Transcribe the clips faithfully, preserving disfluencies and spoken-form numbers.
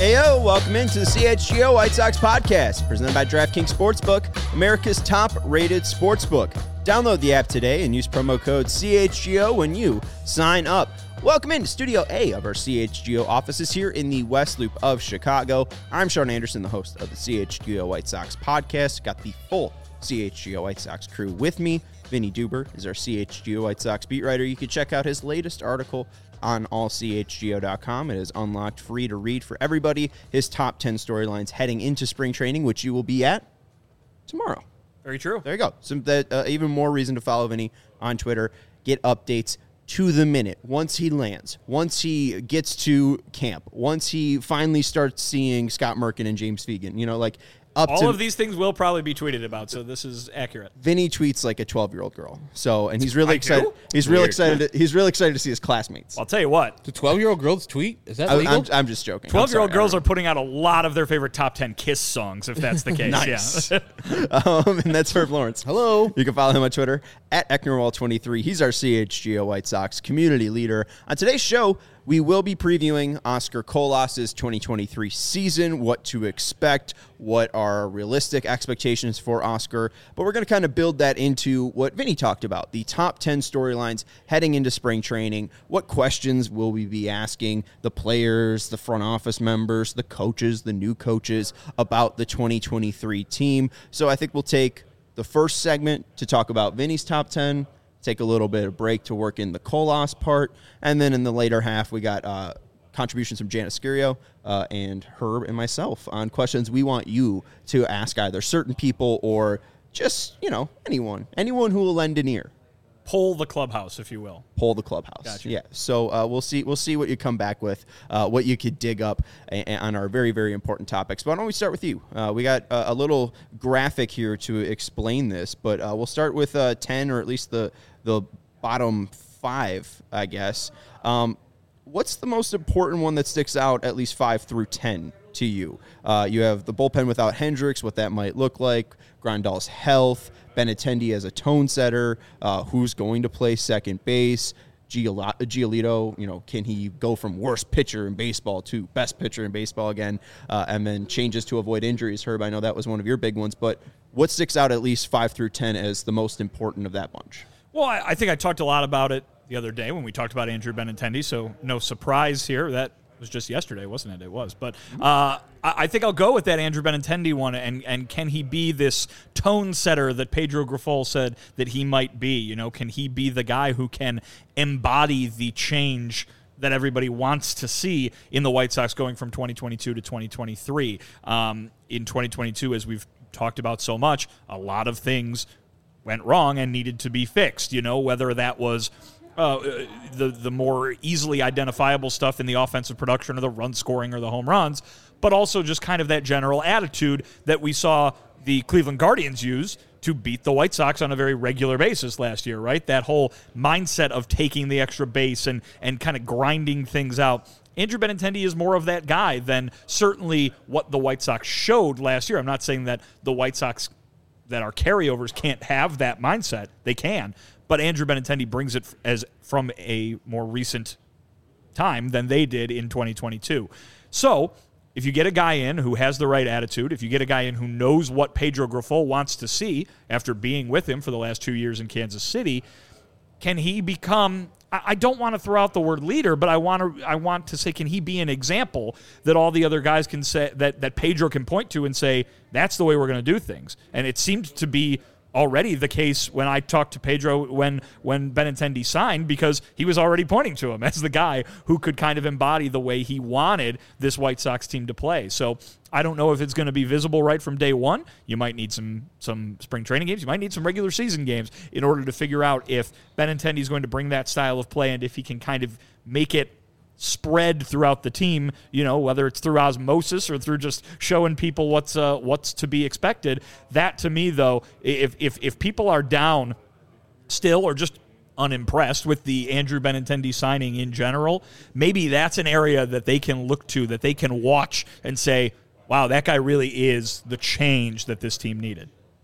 Heyo, welcome into the C H G O White Sox podcast, presented by DraftKings Sportsbook, America's top-rated sportsbook. Download the app today and use promo code C H G O when you sign up. Welcome into Studio A of our C H G O offices here in the West Loop of Chicago. I'm Sean Anderson, the host of the C H G O White Sox podcast. Got the full C H G O White Sox crew with me. Vinny Duber is our C H G O White Sox beat writer. You can check out his latest article on all c h g o dot com. It is unlocked, free to read for everybody. His top ten storylines heading into spring training, which you will be at tomorrow. Very true. There you go. Some that uh, even more reason to follow Vinny on Twitter. Get updates to the minute. Once he lands, once he gets to camp, once he finally starts seeing Scott Merkin and James Fegan, you know, like up all to, of these things will probably be tweeted about, so this is accurate. Vinny tweets like a twelve-year-old girl. So, and he's really I excited. do? He's really Weird. excited. To, he's really excited to see his classmates. I'll tell you what. Do twelve-year-old girls tweet? Is that I, legal? I'm, I'm just joking. twelve-year-old I'm sorry, girls are putting out a lot of their favorite top ten Kiss songs, if that's the case. Nice. Yeah. um, and that's Herb Lawrence. Hello. You can follow him on Twitter at Ecknerwall twenty-three. He's our C H G O White Sox community leader. On today's show, we will be previewing Oscar Colas's twenty twenty-three season, what to expect, what are realistic expectations for Oscar. But we're going to kind of build that into what Vinny talked about, the top ten storylines heading into spring training. What questions will we be asking the players, the front office members, the coaches, the new coaches about the twenty twenty-three team? So I think we'll take the first segment to talk about Vinny's top ten, take a little bit of break to work in the Colas part, and then in the later half, we got uh, contributions from Janice Scurio uh, and Herb and myself on questions we want you to ask either certain people or just, you know, anyone, anyone who will lend an ear. Poll the clubhouse, if you will. Poll the clubhouse. Gotcha. Yeah. So uh, we'll see. We'll see what you come back with, uh, what you could dig up a- a- on our very, very important topics. But why don't we start with you? Uh, we got uh, a little graphic here to explain this, but uh, we'll start with uh, ten, or at least the the bottom five, I guess. Um, what's the most important one that sticks out, at least five through ten, to you? Uh, you have the bullpen without Hendricks, what that might look like, Grandal's health, Benintendi as a tone setter, uh, who's going to play second base, Giol- Giolito, you know, can he go from worst pitcher in baseball to best pitcher in baseball again, uh, and then changes to avoid injuries? Herb, I know that was one of your big ones, but what sticks out at least five through ten as the most important of that bunch? Well, I, I think I talked a lot about it the other day when we talked about Andrew Benintendi, so no surprise here. That was just yesterday, wasn't it? It was. But uh, I, I think I'll go with that Andrew Benintendi one, and, and can he be this tone setter that Pedro Grifol said that he might be? You know, can he be the guy who can embody the change that everybody wants to see in the White Sox going from twenty twenty-two to twenty twenty-three? Um, in twenty twenty-two, as we've talked about so much, a lot of things went wrong and needed to be fixed, you know, whether that was uh, the the more easily identifiable stuff in the offensive production or the run scoring or the home runs, but also just kind of that general attitude that we saw the Cleveland Guardians use to beat the White Sox on a very regular basis last year, right? That whole mindset of taking the extra base and, and kind of grinding things out. Andrew Benintendi is more of that guy than certainly what the White Sox showed last year. I'm not saying that the White Sox that are carryovers can't have that mindset. They can. But Andrew Benintendi brings it as from a more recent time than they did in twenty twenty-two. So if you get a guy in who has the right attitude, if you get a guy in who knows what Pedro Grifol wants to see after being with him for the last two years in Kansas City, can he become, I don't want to throw out the word leader, but I want to I want to say, can he be an example that all the other guys can say, that, that Pedro can point to and say, that's the way we're going to do things? And it seemed to be already the case when I talked to Pedro when when Benintendi signed, because he was already pointing to him as the guy who could kind of embody the way he wanted this White Sox team to play. So I don't know if it's going to be visible right from day one. You might need some some spring training games. You might need some regular season games in order to figure out if Benintendi is going to bring that style of play and if he can kind of make it spread throughout the team, you know, whether it's through osmosis or through just showing people what's uh, what's to be expected. That, to me, though, if if if people are down still or just unimpressed with the Andrew Benintendi signing in general, maybe that's an area that they can look to, that they can watch and say, wow, that guy really is the change that this team needed.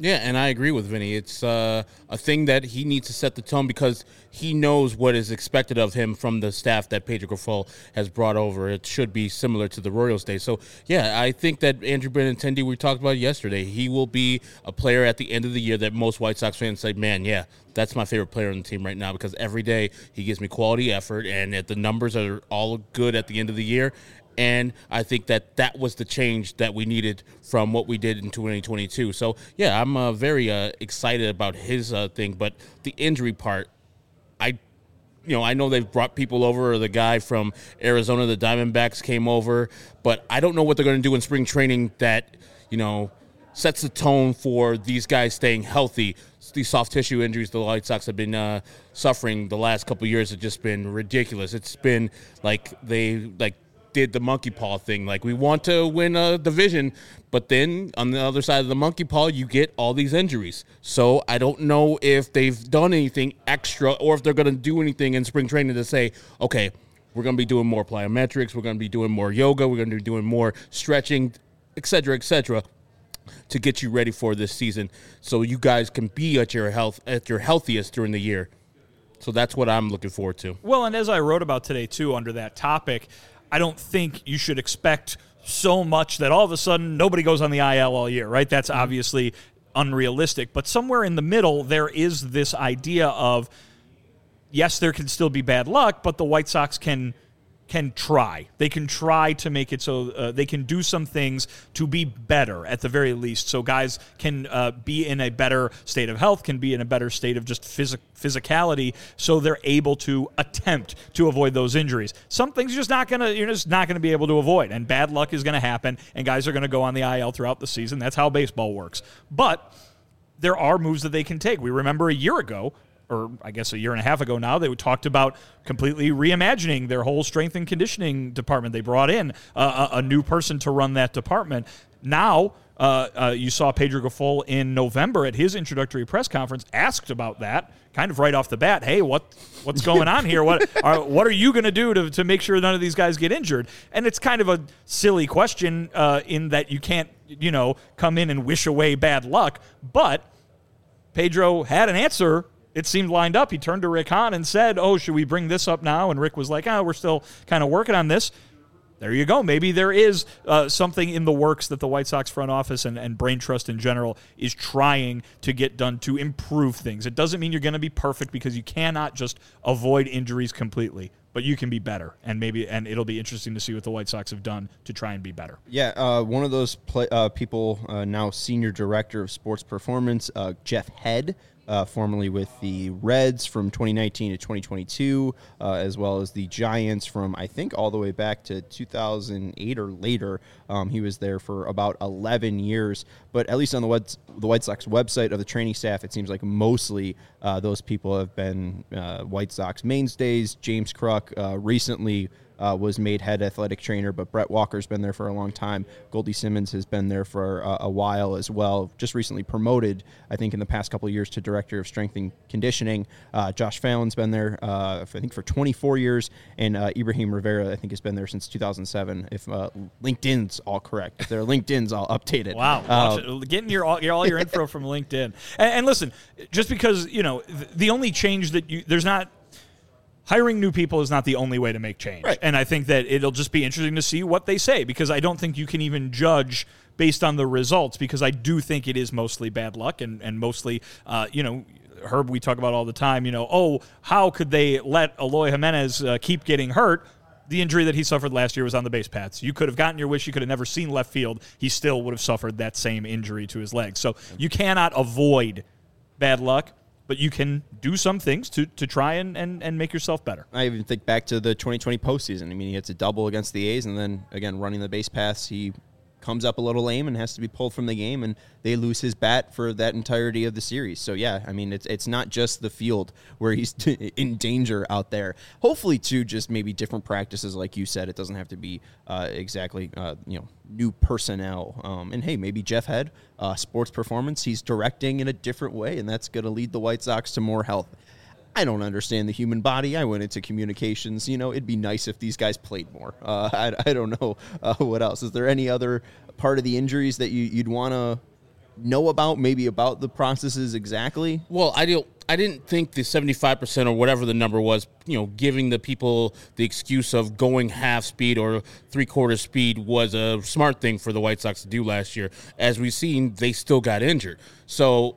Yeah, and I agree with Vinny. It's uh, a thing that he needs to set the tone because he knows what is expected of him from the staff that Pedro Grifol has brought over. It should be similar to the Royals days. So, yeah, I think that Andrew Benintendi, we talked about yesterday, he will be a player at the end of the year that most White Sox fans say, man, yeah, that's my favorite player on the team right now because every day he gives me quality effort and the numbers are all good at the end of the year. And I think that that was the change that we needed from what we did in twenty twenty-two. So, yeah, I'm uh, very uh, excited about his uh, thing. But the injury part, I you know, I know they've brought people over. Or the guy from Arizona, the Diamondbacks, came over. But I don't know what they're going to do in spring training that, you know, sets the tone for these guys staying healthy. These soft tissue injuries the White Sox have been uh, suffering the last couple of years have just been ridiculous. It's been like they, like, did the monkey paw thing. Like, we want to win a division, but then on the other side of the monkey paw, you get all these injuries. So I don't know if they've done anything extra or if they're going to do anything in spring training to say, okay, we're going to be doing more plyometrics, we're going to be doing more yoga, we're going to be doing more stretching, et cetera, et cetera, to get you ready for this season so you guys can be at your health at your healthiest during the year. So that's what I'm looking forward to. Well, and as I wrote about today, too, under that topic, I don't think you should expect so much that all of a sudden nobody goes on the I L all year, right? That's obviously unrealistic. But somewhere in the middle, there is this idea of, yes, there can still be bad luck, but the White Sox can can try. They can try to make it so uh, they can do some things to be better at the very least. So guys can uh, be in a better state of health, can be in a better state of just phys- physicality, so they're able to attempt to avoid those injuries. Some things you're just not gonna you're just not gonna be able to avoid, and bad luck is gonna happen, and guys are gonna go on the I L throughout the season. That's how baseball works. But there are moves that they can take. We remember a year ago, or I guess a year and a half ago now, they talked about completely reimagining their whole strength and conditioning department. They brought in uh, a, a new person to run that department. Now, uh, uh, you saw Pedro Grifol in November at his introductory press conference asked about that, kind of right off the bat. Hey, what what's going on here? What are what are you going to do to to make sure none of these guys get injured? And it's kind of a silly question uh, in that you can't, you know, come in and wish away bad luck. But Pedro had an answer. It seemed lined up. He turned to Rick Hahn and said, oh, should we bring this up now? And Rick was like, oh, we're still kind of working on this. There you go. Maybe there is uh, something in the works that the White Sox front office and, and Brain Trust in general is trying to get done to improve things. It doesn't mean you're going to be perfect because you cannot just avoid injuries completely, but you can be better. And maybe, and it'll be interesting to see what the White Sox have done to try and be better. Yeah, uh, one of those play, uh, people, uh, now senior director of sports performance, uh, Jeff Head, Uh, formerly with the Reds from twenty nineteen to twenty twenty-two, uh, as well as the Giants from, I think, all the way back to two thousand eight or later. Um, he was there for about eleven years. But at least on the White, the White Sox website of the training staff, it seems like mostly uh, those people have been uh, White Sox mainstays. James Kruk uh, recently Uh, was made head athletic trainer, but Brett Walker's been there for a long time. Goldie Simmons has been there for uh, a while as well. Just recently promoted, I think, in the past couple of years to director of strength and conditioning. Uh, Josh Fallon's been there, uh, for, I think, for twenty-four years, and uh, Ibrahim Rivera, I think, has been there since two thousand seven. If uh, LinkedIn's all correct, if they're LinkedIn's, I'll update it. Wow, uh, getting your all, your all your info from LinkedIn. And, and listen, just because you know the, the only change that you there's not. Hiring new people is not the only way to make change. Right. And I think that it'll just be interesting to see what they say, because I don't think you can even judge based on the results, because I do think it is mostly bad luck and, and mostly, uh, you know, Herb, we talk about all the time, you know, oh, how could they let Eloy Jimenez uh, keep getting hurt? The injury that he suffered last year was on the base paths. You could have gotten your wish. You could have never seen left field. He still would have suffered that same injury to his leg. So you cannot avoid bad luck, but you can do some things to, to try and, and, and make yourself better. I even think back to the twenty twenty postseason. I mean, he hits a double against the A's, and then, again, running the base paths, he comes up a little lame and has to be pulled from the game, and they lose his bat for that entirety of the series. So, yeah, I mean, it's it's not just the field where he's in danger out there. Hopefully, too, just maybe different practices, like you said. It doesn't have to be uh, exactly, uh, you know, new personnel. Um, and, hey, maybe Jeff Head, uh, sports performance, he's directing in a different way, and that's going to lead the White Sox to more health. I don't understand the human body. I went into communications. You know, it'd be nice if these guys played more. Uh, I, I don't know uh, what else. Is there any other part of the injuries that you, you'd want to know about, maybe about the processes exactly? Well, I don't. I didn't think the seventy-five percent or whatever the number was, you know, giving the people the excuse of going half speed or three-quarter speed was a smart thing for the White Sox to do last year. As we've seen, they still got injured. So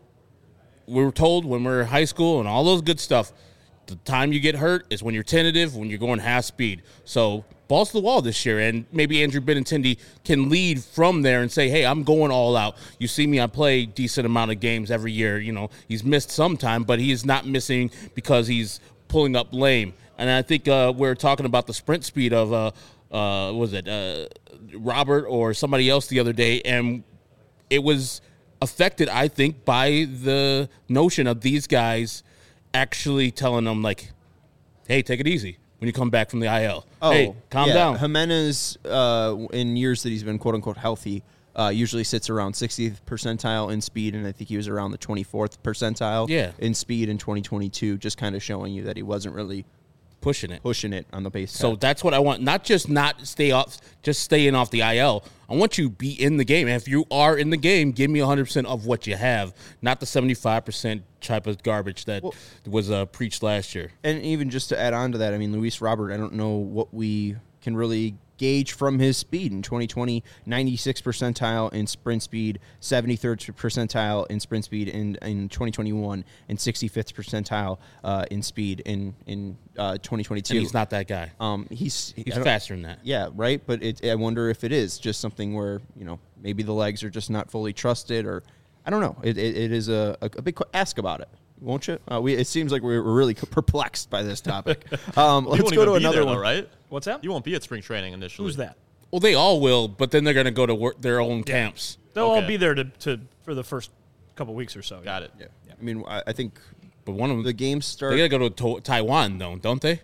we were told when we were in high school and all those good stuff, the time you get hurt is when you're tentative, when you're going half speed. So balls to the wall this year, and maybe Andrew Benintendi can lead from there and say, hey, I'm going all out. You see me, I play decent amount of games every year. You know, he's missed some time, but he is not missing because he's pulling up lame. And I think uh, we're talking about the sprint speed of, uh, uh, what was it, uh, Robert or somebody else the other day, and it was affected, I think, by the notion of these guys actually telling them, like, hey, take it easy when you come back from the I L. Oh, hey, calm yeah. down. Jimenez, uh, in years that he's been quote-unquote healthy, uh, usually sits around sixtieth percentile in speed, and I think he was around the twenty-fourth percentile yeah. in speed in twenty twenty-two, just kind of showing you that he wasn't really pushing it. Pushing it on the base. So pad. that's what I want. Not just not stay off, just staying off the I L. I want you to be in the game. And if you are in the game, give me one hundred percent of what you have, not the seventy-five percent type of garbage that well, was uh, preached last year. And even just to add on to that, I mean, Luis Robert, I don't know what we can really gauge from his speed. In twenty twenty, ninety-sixth percentile in sprint speed, seventy-third percentile in sprint speed in, in twenty twenty-one, and sixty-fifth percentile uh, in speed in, in uh, twenty twenty-two. And he's not that guy. Um, he's he's faster than that. Yeah, right? But it, I wonder if it is just something where, you know, maybe the legs are just not fully trusted, or I don't know. It, it, it is a, a, a big ask about it. Won't you? Uh, we, it seems like we're really perplexed by this topic. Um, let's go to another there, one. Though, right? What's that? You won't be at spring training initially. Who's that? Well, they all will, but then they're going to go to work their own yeah. camps. They'll okay. all be there to, to for the first couple weeks or so. Got yeah. it. Yeah. yeah. I mean, I, I think, but one of them, the games start. They got to go to, to Taiwan, though, don't they?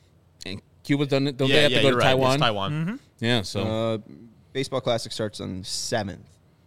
And Cuba's done it. Don't yeah, they have yeah, to go to right. Taiwan? It's Taiwan. Mm-hmm. Yeah. So, uh, Baseball Classic starts on the seventh.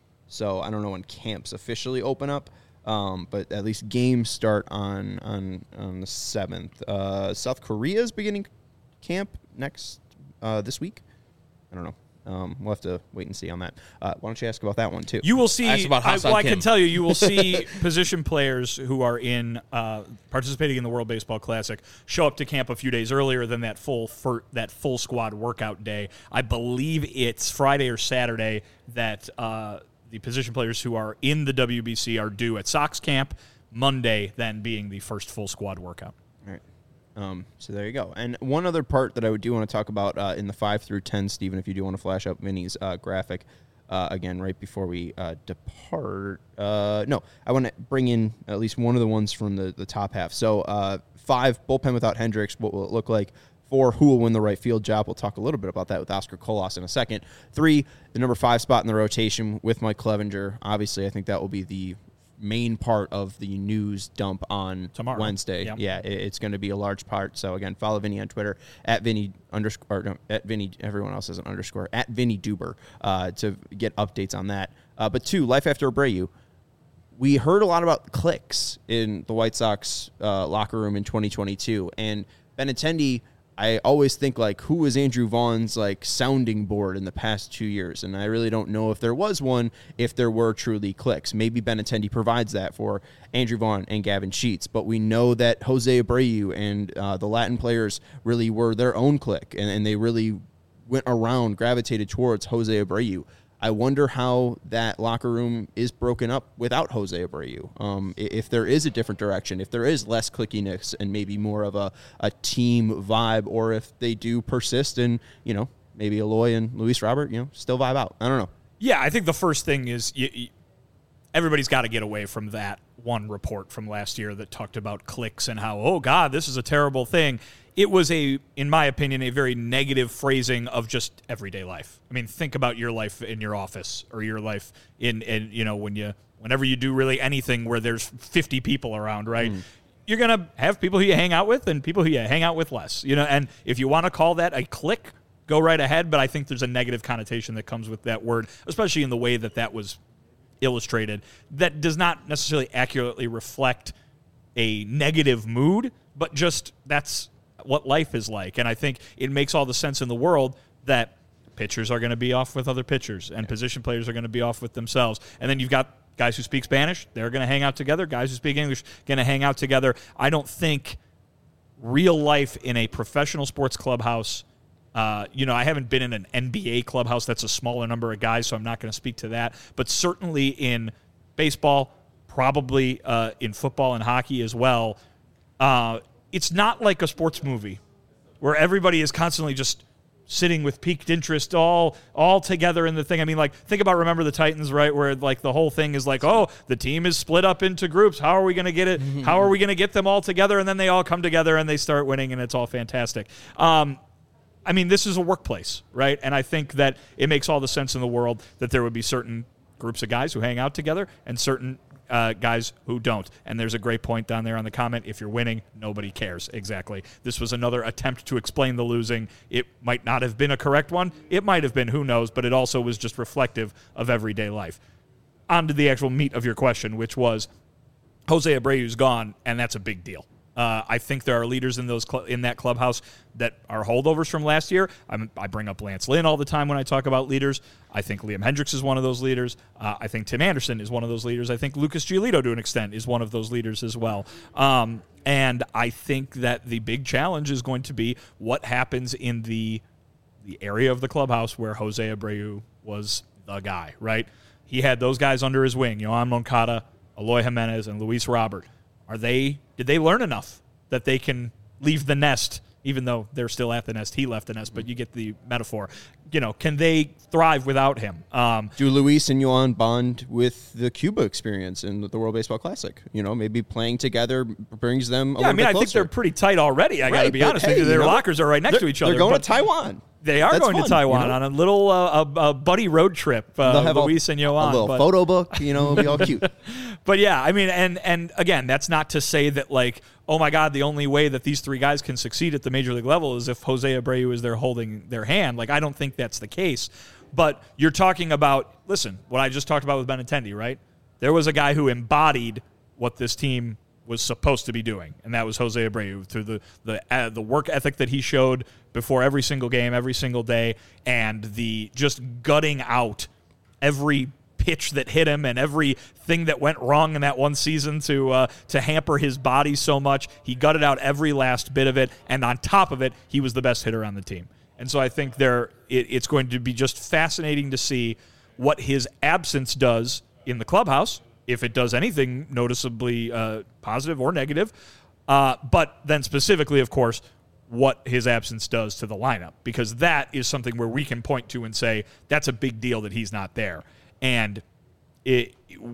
So I don't know when camps officially open up. Um, but at least games start on on, on the seventh. Uh, South Korea is beginning camp next uh, this week. I don't know. Um, we'll have to wait and see on that. Uh, why don't you ask about that one too? You will see. Ask about I, well, I Kim. can tell you, you will see position players who are in uh, participating in the World Baseball Classic show up to camp a few days earlier than that full for that full squad workout day. I believe it's Friday or Saturday that. Uh, The position players who are in the W B C are due at Sox camp, Monday then being the first full squad workout. All right. Um, so there you go. And one other part that I would do want to talk about uh, in the five through ten, Stephen, if you do want to flash up Vinny's uh, graphic uh, again right before we uh, depart. Uh, no, I want to bring in at least one of the ones from the, the top half. So uh, five, bullpen without Hendricks, what will it look like? Four, who will win the right field job? We'll talk a little bit about that with Oscar Colas in a second. Three, the number five spot in the rotation with Mike Clevenger. Obviously, I think that will be the main part of the news dump on Tomorrow. Wednesday. Yep. Yeah, it, it's going to be a large part. So, again, follow Vinny on Twitter, at Vinny underscore, or no, at Vinny, everyone else has an underscore, at Vinny Duber uh, to get updates on that. Uh, but two, life after Abreu. We heard a lot about clicks in the White Sox uh, locker room in twenty twenty-two, and Benintendi, I always think, like, who was Andrew Vaughn's, like, sounding board in the past two years? And I really don't know if there was one, if there were truly clicks. Maybe Benintendi provides that for Andrew Vaughn and Gavin Sheets. But we know that Jose Abreu and uh, the Latin players really were their own click, and, and they really went around, gravitated towards Jose Abreu. I wonder how that locker room is broken up without Jose Abreu. Um, if there is a different direction, if there is less clickiness and maybe more of a, a team vibe, or if they do persist and, you know, maybe Eloy and Luis Robert, you know, still vibe out. I don't know. Yeah, I think the first thing is you, you, everybody's got to get away from that one report from last year that talked about clicks and how, oh, God, this is a terrible thing. It was, a, in my opinion, a very negative phrasing of just everyday life. I mean, think about your life in your office or your life in, in you know, when you, whenever you do really anything where there's fifty people around, right? Mm. You're going to have people who you hang out with and people who you hang out with less, you know, and if you want to call that a clique, go right ahead, but I think there's a negative connotation that comes with that word, especially in the way that that was illustrated, that does not necessarily accurately reflect a negative mood, but just that's what life is like. And I think it makes all the sense in the world that pitchers are going to be off with other pitchers and position players are going to be off with themselves. And then you've got Guys who speak Spanish, they're going to hang out together. Guys who speak English, going to hang out together. I don't think real life in a professional sports clubhouse, uh, you know, I haven't been in an N B A clubhouse. That's a smaller number of guys, so I'm not going to speak to that. But certainly in baseball, probably uh, in football and hockey as well, uh, it's not like a sports movie where everybody is constantly just sitting with piqued interest all all together in the thing. I mean, like, think about Remember the Titans, right, where, like, the whole thing is like, oh, the team is split up into groups. How are we going to get it? How are we going to get them all together? And then they all come together and they start winning, and it's all fantastic. Um, I mean, this is a workplace, right? And I think that it makes all the sense in the world that there would be certain groups of guys who hang out together and certain Uh, guys who don't. And there's a great point down there on the comment. If you're winning, nobody cares. Exactly. This was another attempt to explain the losing. It might not have been a correct one. It might have been, who knows, but it also was just reflective of everyday life. On to the actual meat of your question, which was Jose Abreu's gone, and that's a big deal. Uh, I think there are leaders in those cl- in that clubhouse that are holdovers from last year. I'm, I bring up Lance Lynn all the time when I talk about leaders. I think Liam Hendricks is one of those leaders. Uh, I think Tim Anderson is one of those leaders. I think Lucas Giolito, to an extent, is one of those leaders as well. Um, and I think that the big challenge is going to be what happens in the the area of the clubhouse where Jose Abreu was the guy, right? He had those guys under his wing, Yoan Moncada, Eloy Jimenez, and Luis Robert. Are they? Did they learn enough that they can leave the nest, even though they're still at the nest? He left the nest, but you get the metaphor. You know, can they thrive without him? Um, Do Luis and Yoan bond with the Cuba experience in the World Baseball Classic? You know, maybe playing together brings them a yeah, I little mean, bit I closer. think they're pretty tight already. I got to Right, be but honest hey, with you. Their you know, lockers are right next to each other. They're going but to Taiwan. They are That's going fun, to Taiwan you know? on a little uh, a, a buddy road trip. Uh, They'll have Luis a, and Yoan, a little but, photo book. You know, it'll be all cute. But yeah, I mean, and and again, that's not to say that, like, oh my God, the only way that these three guys can succeed at the major league level is if Jose Abreu is there holding their hand. Like, I don't think that's the case. But you're talking about, listen, what I just talked about with Benintendi, right? There was a guy who embodied what this team was supposed to be doing, and that was Jose Abreu through the the uh, the work ethic that he showed before every single game, every single day, and the just gutting out every pitch that hit him and everything that went wrong in that one season to uh, to hamper his body so much. He gutted out every last bit of it, and on top of it, he was the best hitter on the team. And so I think there it, it's going to be just fascinating to see what his absence does in the clubhouse, if it does anything noticeably uh, positive or negative, uh, but then specifically, of course, what his absence does to the lineup, because that is something where we can point to and say, that's a big deal that he's not there. And it,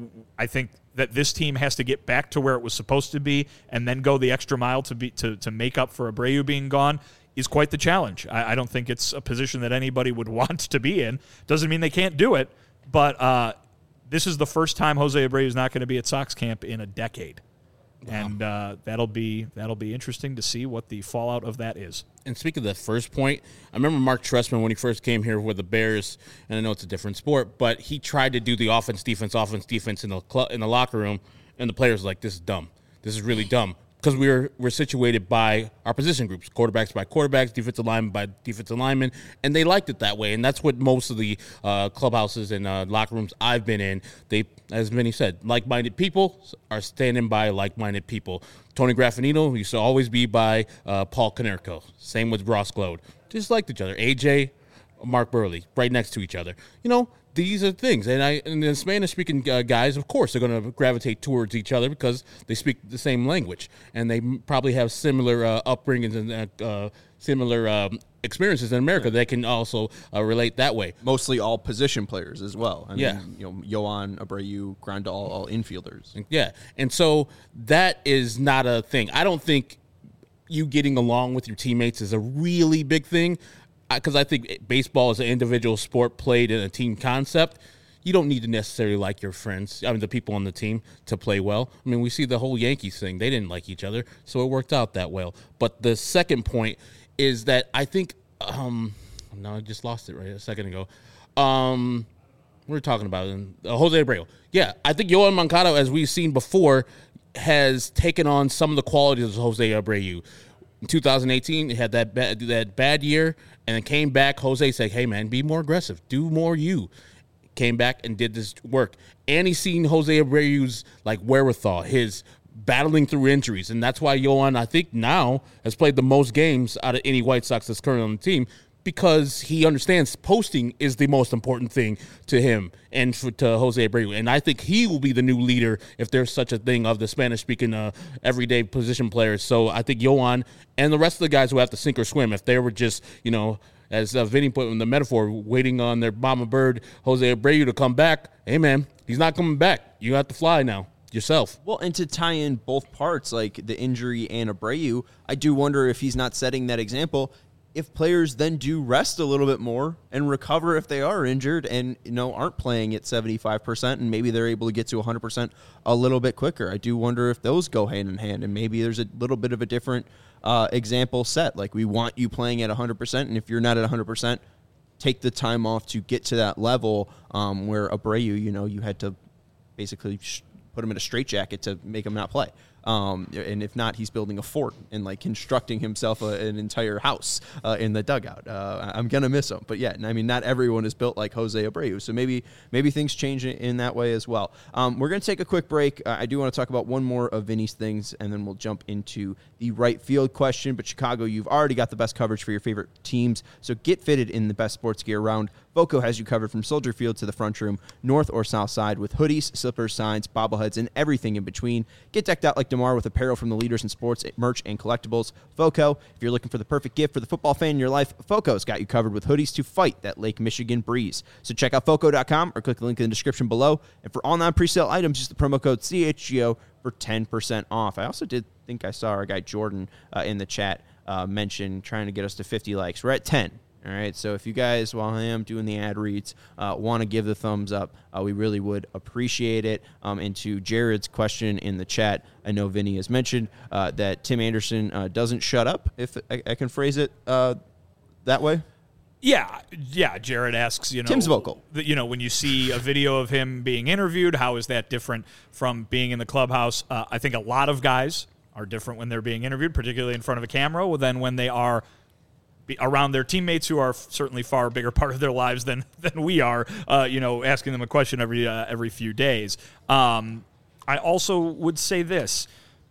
I think that this team has to get back to where it was supposed to be and then go the extra mile to be to, to make up for Abreu being gone is quite the challenge. I, I don't think it's a position that anybody would want to be in. Doesn't mean they can't do it, but uh, this is the first time Jose Abreu is not going to be at Sox camp in a decade. Wow. And uh, that'll be that'll be interesting to see what the fallout of that is. And speaking of that first point, I remember Mark Trestman when he first came here with the Bears, and I know it's a different sport, but he tried to do the offense, defense, offense, defense in the cl- in the locker room, and the players were like, this is dumb. This is really dumb. Because we we're, we're situated by our position groups, quarterbacks by quarterbacks, defensive linemen by defensive linemen, and they liked it that way. And that's what most of the uh, clubhouses and uh, locker rooms I've been in, they, as Vinny said, like-minded people are standing by like-minded people. Tony Graffinino used to always be by uh, Paul Konerko. Same with Ross Glode. Just liked each other. A J, Mark Burley, right next to each other. You know, these are things. And I, and the Spanish-speaking uh, guys, of course, are going to gravitate towards each other because they speak the same language. And they m- probably have similar uh, upbringings and uh, uh, similar um, experiences in America that can also uh, relate that way. Mostly all position players as well. I Yeah. mean, you know, Yoan, Abreu, Grandal, all infielders. Yeah. And so that is not a thing. I don't think you getting along with your teammates is a really big thing. Because I think baseball is an individual sport played in a team concept. You don't need to necessarily like your friends, I mean, the people on the team, to play well. I mean, we see the whole Yankees thing. They didn't like each other, so it worked out that well. But the second point is that I think um, – no, I just lost it right a second ago. Um, we were talking about it. Uh, Jose Abreu. Yeah, I think Yoan Moncada, as we've seen before, has taken on some of the qualities of Jose Abreu. In two thousand eighteen, he had that bad, that bad year, and then came back. Jose said, hey, man, be more aggressive. Do more you. came back and did this work. And he's seen Jose Abreu's like wherewithal, his battling through injuries. And that's why Yohan, I think now, has played the most games out of any White Sox that's currently on the team, because he understands posting is the most important thing to him and for, to Jose Abreu. And I think he will be the new leader, if there's such a thing, of the Spanish-speaking uh, everyday position players. So I think Yohan and the rest of the guys who have to sink or swim, if they were just, you know, as uh, Vinny put in the metaphor, waiting on their mama bird, Jose Abreu, to come back, hey, man, he's not coming back. You have to fly now yourself. Well, and to tie in both parts, like the injury and Abreu, I do wonder if he's not setting that example. If players then do rest a little bit more and recover if they are injured and, you know, aren't playing at seventy-five percent, and maybe they're able to get to one hundred percent a little bit quicker. I do wonder if those go hand in hand, and maybe there's a little bit of a different uh, example set. Like, we want you playing at one hundred percent, and if you're not at one hundred percent, take the time off to get to that level um, where Abreu, you know, you had to basically sh- put him in a straitjacket to make him not play. Um, and if not, he's building a fort and like constructing himself a, an entire house uh, in the dugout. Uh, I'm gonna miss him, but yeah, I mean, not everyone is built like Jose Abreu, so maybe maybe things change in that way as well. Um, we're gonna take a quick break. Uh, I do want to talk about one more of Vinny's things, and then we'll jump into the right field question. But Chicago, you've already got the best coverage for your favorite teams, so get fitted in the best sports gear around. Voco has you covered from Soldier Field to the front room, north or south side, with hoodies, slippers, signs, bobbleheads, and everything in between. Get decked out like DeMar with apparel from the leaders in sports, merch, and collectibles. Voco, if you're looking for the perfect gift for the football fan in your life, Voco's got you covered with hoodies to fight that Lake Michigan breeze. So check out Voco dot com or click the link in the description below. And for all non-presale items, use the promo code C H G O for ten percent off. I also did think I saw our guy Jordan uh, in the chat uh, mention trying to get us to fifty likes. We're at ten. All right, so if you guys, while I am doing the ad reads, uh, want to give the thumbs up, uh, we really would appreciate it. Um, and to Jared's question in the chat, I know Vinny has mentioned uh, that Tim Anderson uh, doesn't shut up, if I, I can phrase it uh, that way. Yeah, yeah. Jared asks, you know, Tim's vocal. The, you know, when you see a video of him being interviewed, how is that different from being in the clubhouse? Uh, I think a lot of guys are different when they're being interviewed, particularly in front of a camera, than when they are around their teammates, who are certainly far bigger part of their lives than than we are, uh, you know, asking them a question every uh, every few days. Um, I also would say this,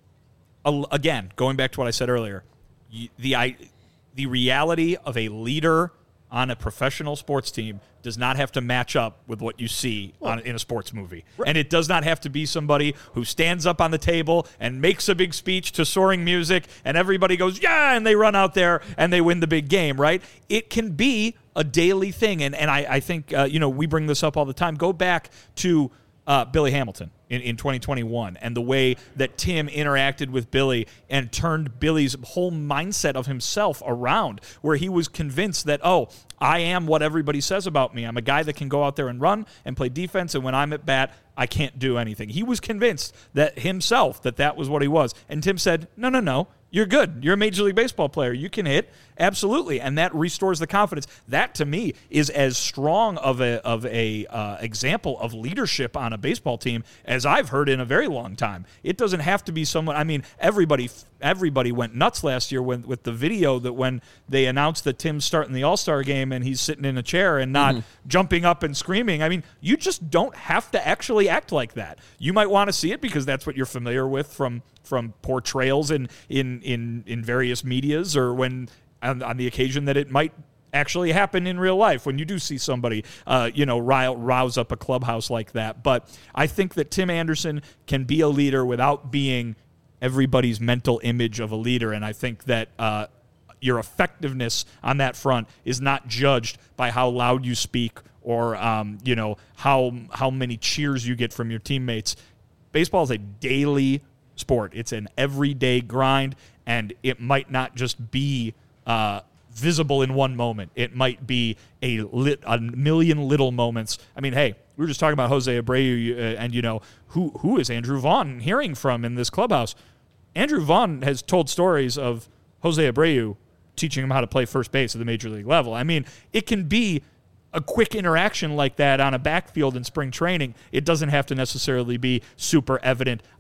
uh, again, going back to what I said earlier, the I, the reality of a leader on a professional sports team does not have to match up with what you see well, on, in a sports movie. Right. And it does not have to be somebody who stands up on the table and makes a big speech to soaring music and everybody goes, yeah, and they run out there and they win the big game, right? It can be a daily thing. And, and I, I think, uh, you know, we bring this up all the time. Go back to uh, Billy Hamilton in, in twenty twenty-one and the way that Tim interacted with Billy and turned Billy's whole mindset of himself around, where he was convinced that, oh, I am what everybody says about me. I'm a guy that can go out there and run and play defense, and when I'm at bat, I can't do anything. He was convinced that himself that that was what he was. And Tim said, no, no, no. You're good. You're a Major League Baseball player. You can hit. Absolutely. And that restores the confidence. That, to me, is as strong of a of a uh, example of leadership on a baseball team as I've heard in a very long time. It doesn't have to be someone. I mean, everybody everybody went nuts last year when, with the video that when they announced that Tim's starting the All-Star game and he's sitting in a chair and not mm-hmm. jumping up and screaming. I mean, you just don't have to actually act like that. You might want to see it because that's what you're familiar with from from portrayals in in in, in various medias, or when on, on the occasion that it might actually happen in real life when you do see somebody, uh, you know, rile, rouse up a clubhouse like that. But I think that Tim Anderson can be a leader without being everybody's mental image of a leader. And I think that uh, your effectiveness on that front is not judged by how loud you speak or, um, you know, how how many cheers you get from your teammates. Baseball is a daily sport. It's an everyday grind, and it might not just be uh, visible in one moment. It might be a, lit, a million little moments. I mean, hey, we were just talking about Jose Abreu, uh, and, you know, who who is Andrew Vaughn hearing from in this clubhouse? Andrew Vaughn has told stories of Jose Abreu teaching him how to play first base at the major league level. I mean, it can be a quick interaction like that on a backfield in spring training. It doesn't have to necessarily be super evident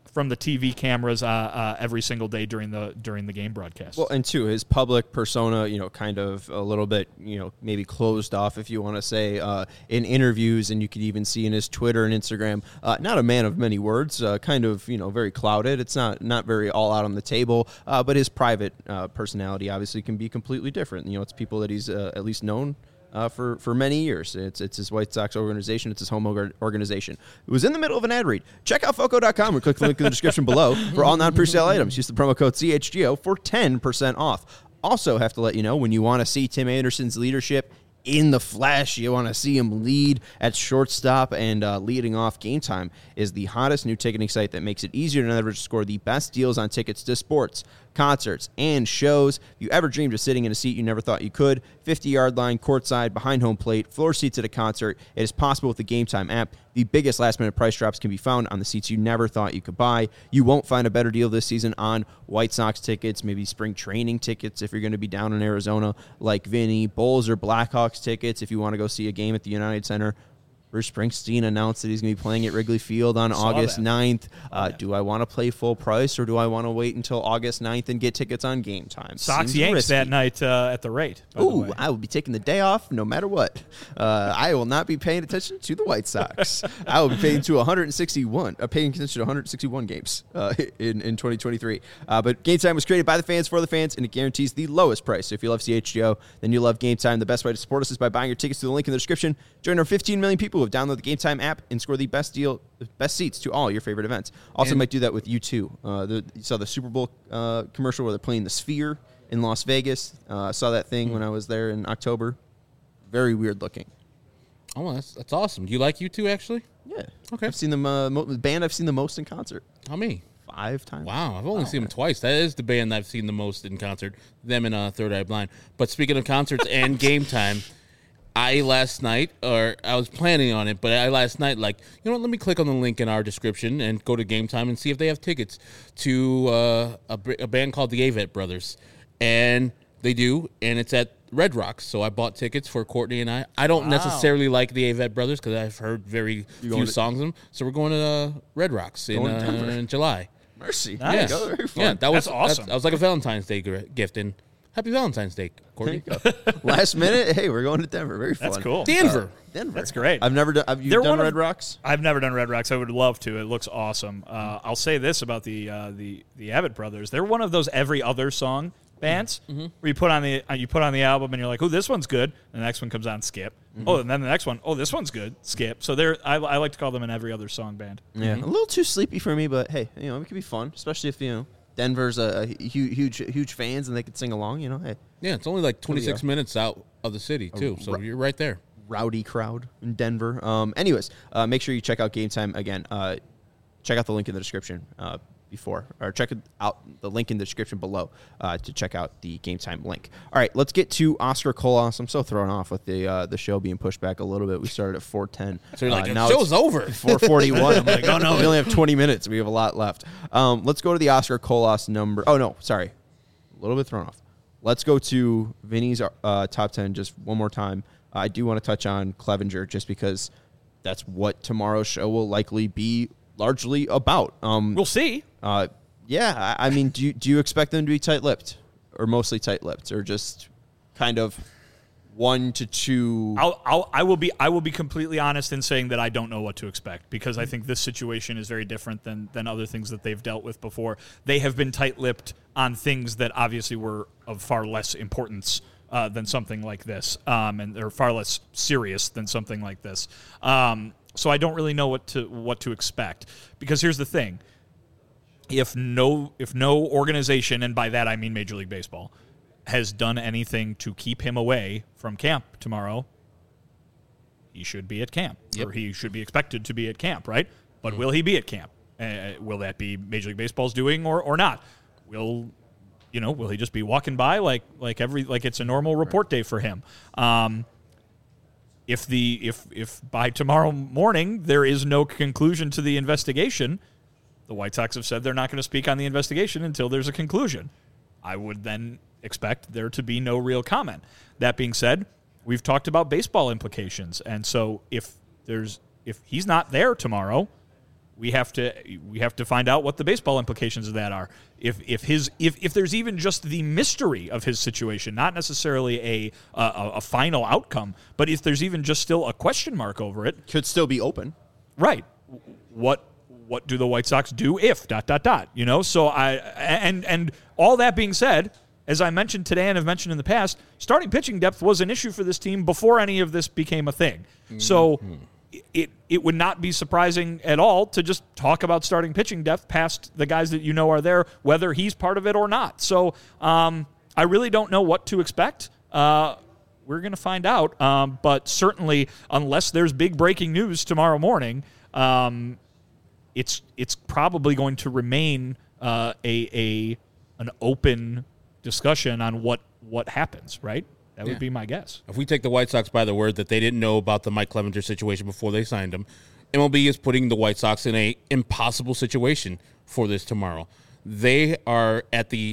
from the T V cameras uh, uh, every single day during the during the game broadcast. Well, and two, his public persona, you know, kind of a little bit, you know, maybe closed off, if you want to say, uh, in interviews, and you could even see in his Twitter and Instagram, uh, not a man of many words, uh, kind of, you know, very clouded. It's not not very all out on the table, uh, but his private uh, personality obviously can be completely different. You know, it's people that he's uh, at least known Uh, for, for many years. It's it's his White Sox organization. It's his home org- organization. It was in the middle of an ad read. Check out Foco dot com or click the link in the description below for all non-presale items. Use the promo code C H G O for ten percent off. Also have to let you know, when you want to see Tim Anderson's leadership in the flesh, you want to see him lead at shortstop and uh, leading off, Game Time is the hottest new ticketing site that makes it easier than ever to score the best deals on tickets to sports, concerts, and shows. If you ever dreamed of sitting in a seat you never thought you could, fifty-yard line, courtside, behind home plate, floor seats at a concert, it is possible with the Game Time app. The biggest last-minute price drops can be found on the seats you never thought you could buy. You won't find a better deal this season on White Sox tickets, maybe spring training tickets if you're going to be down in Arizona like Vinny, Bulls or Blackhawks tickets if you want to go see a game at the United Center. Bruce Springsteen announced that he's going to be playing at Wrigley Field on August ninth. Uh, do I want to play full price, or do I want to wait until August ninth and get tickets on Game Time? Sox Seems Yanks risky. that night uh, at the rate. Ooh, I will be taking the day off no matter what. Uh, I will not be paying attention to the White Sox. I will be paying to one hundred sixty-one, uh, paying attention to one hundred sixty-one games uh, in, in twenty twenty-three. Uh, but Game Time was created by the fans for the fans, and it guarantees the lowest price. So if you love C H G O, then you love Game Time. The best way to support us is by buying your tickets through the link in the description. Join our fifteen million people who have downloaded the Game Time app and score the best deal, best seats to all your favorite events. Also, And might do that with you too. Uh, the, you saw the Super Bowl uh, commercial where they're playing the Sphere in Las Vegas. Uh, I saw that thing mm-hmm. when I was there in October. Very weird looking. Oh, well, that's that's awesome. Do you like U two actually? Yeah. Okay. I've seen them. Uh, mo- the band I've seen the most in concert. How many? Five times. Wow, I've only oh, seen them twice. That is the band I've seen the most in concert. Them and uh, Third Eye Blind. But speaking of concerts and Game Time, I last night, or I was planning on it, but I last night, like, you know what, let me click on the link in our description and go to Game Time and see if they have tickets to uh, a, a band called the Avett Brothers. And they do, and it's at Red Rocks. So I bought tickets for Courtney and I. I don't wow. necessarily like the Avett Brothers because I've heard very you few songs of them. So we're going to uh, Red Rocks in, uh, in July. Mercy. Nice. Yeah, very fun. Yeah, that was That's awesome. That, that was like a Valentine's Day gift, and happy Valentine's Day, Courtney. Last minute, hey, we're going to Denver. Very fun. That's cool. Denver. Uh, Denver. That's great. I've never done. Have you They're done one Red of, Rocks? I've never done Red Rocks. I would love to. It looks awesome. Uh, I'll say this about the uh, the the Avett Brothers. They're one of those every other song bands mm-hmm. where you put on the uh, you put on the album and you're like, oh, this one's good. And the next one comes on, skip. Mm-hmm. Oh, and then the next one, oh, this one's good, skip. So they're I, I like to call them an every other song band. Yeah, mm-hmm. a little too sleepy for me, but hey, you know, it could be fun, especially if you know Denver's a, a huge huge huge fans and they could sing along. You know, hey. Yeah, it's only like twenty-six minutes out of the city too, so you're right there. Rowdy crowd in Denver. Um, anyways, uh, make sure you check out Game Time again. Uh, check out the link in the description uh, before, or check out the link in the description below uh, to check out the Game Time link. All right, let's get to Oscar Colas. I'm so thrown off with the uh, the show being pushed back a little bit. We started at four ten. So you're like, uh, now the show's over. four forty-one. I'm like, oh no, we only have twenty minutes. We have a lot left. Um, let's go to the Oscar Colas number. Oh no, sorry, a little bit thrown off. Let's go to Vinny's uh, top ten just one more time. I do want to touch on Clevenger just because that's what tomorrow's show will likely be largely about. Um, we'll see. Uh, yeah, I, I mean, do you, do you expect them to be tight-lipped or mostly tight-lipped or just kind of one to two? I'll, I'll, I will be I will be completely honest in saying that I don't know what to expect because I think this situation is very different than than other things that they've dealt with before. They have been tight-lipped on things that obviously were of far less importance uh, than something like this, um, and they're far less serious than something like this. Um, so I don't really know what to what to expect because here's the thing: if no if no organization, and by that I mean Major League Baseball, has done anything to keep him away from camp tomorrow, he should be at camp, yep. or he should be expected to be at camp, right? But mm-hmm. will he be at camp? Uh, will that be Major League Baseball's doing or, or not? Will you know? Will he just be walking by like like every like it's a normal report day for him? Um, if the if if by tomorrow morning there is no conclusion to the investigation, the White Sox have said they're not going to speak on the investigation until there's a conclusion. I would then expect there to be no real comment. That being said, we've talked about baseball implications, and so if there's if he's not there tomorrow, we have to we have to find out what the baseball implications of that are. If if his if, if there's even just the mystery of his situation, not necessarily a, a a final outcome, but if there's even just still a question mark over it, Could still be open. right? What what do the White Sox do if dot dot dot? You know, so I and and all that being said, as I mentioned today and have mentioned in the past, starting pitching depth was an issue for this team before any of this became a thing. Mm-hmm. So it it would not be surprising at all to just talk about starting pitching depth past the guys that you know are there, whether he's part of it or not. So um, I really don't know what to expect. Uh, we're going to find out. Um, but certainly, unless there's big breaking news tomorrow morning, um, it's it's probably going to remain uh, a a an open discussion on what what happens, right? That would Yeah. be my guess. If we take the White Sox by the word that they didn't know about the Mike Clevenger situation before they signed him, M L B is putting the White Sox in a impossible situation for this tomorrow. They are at the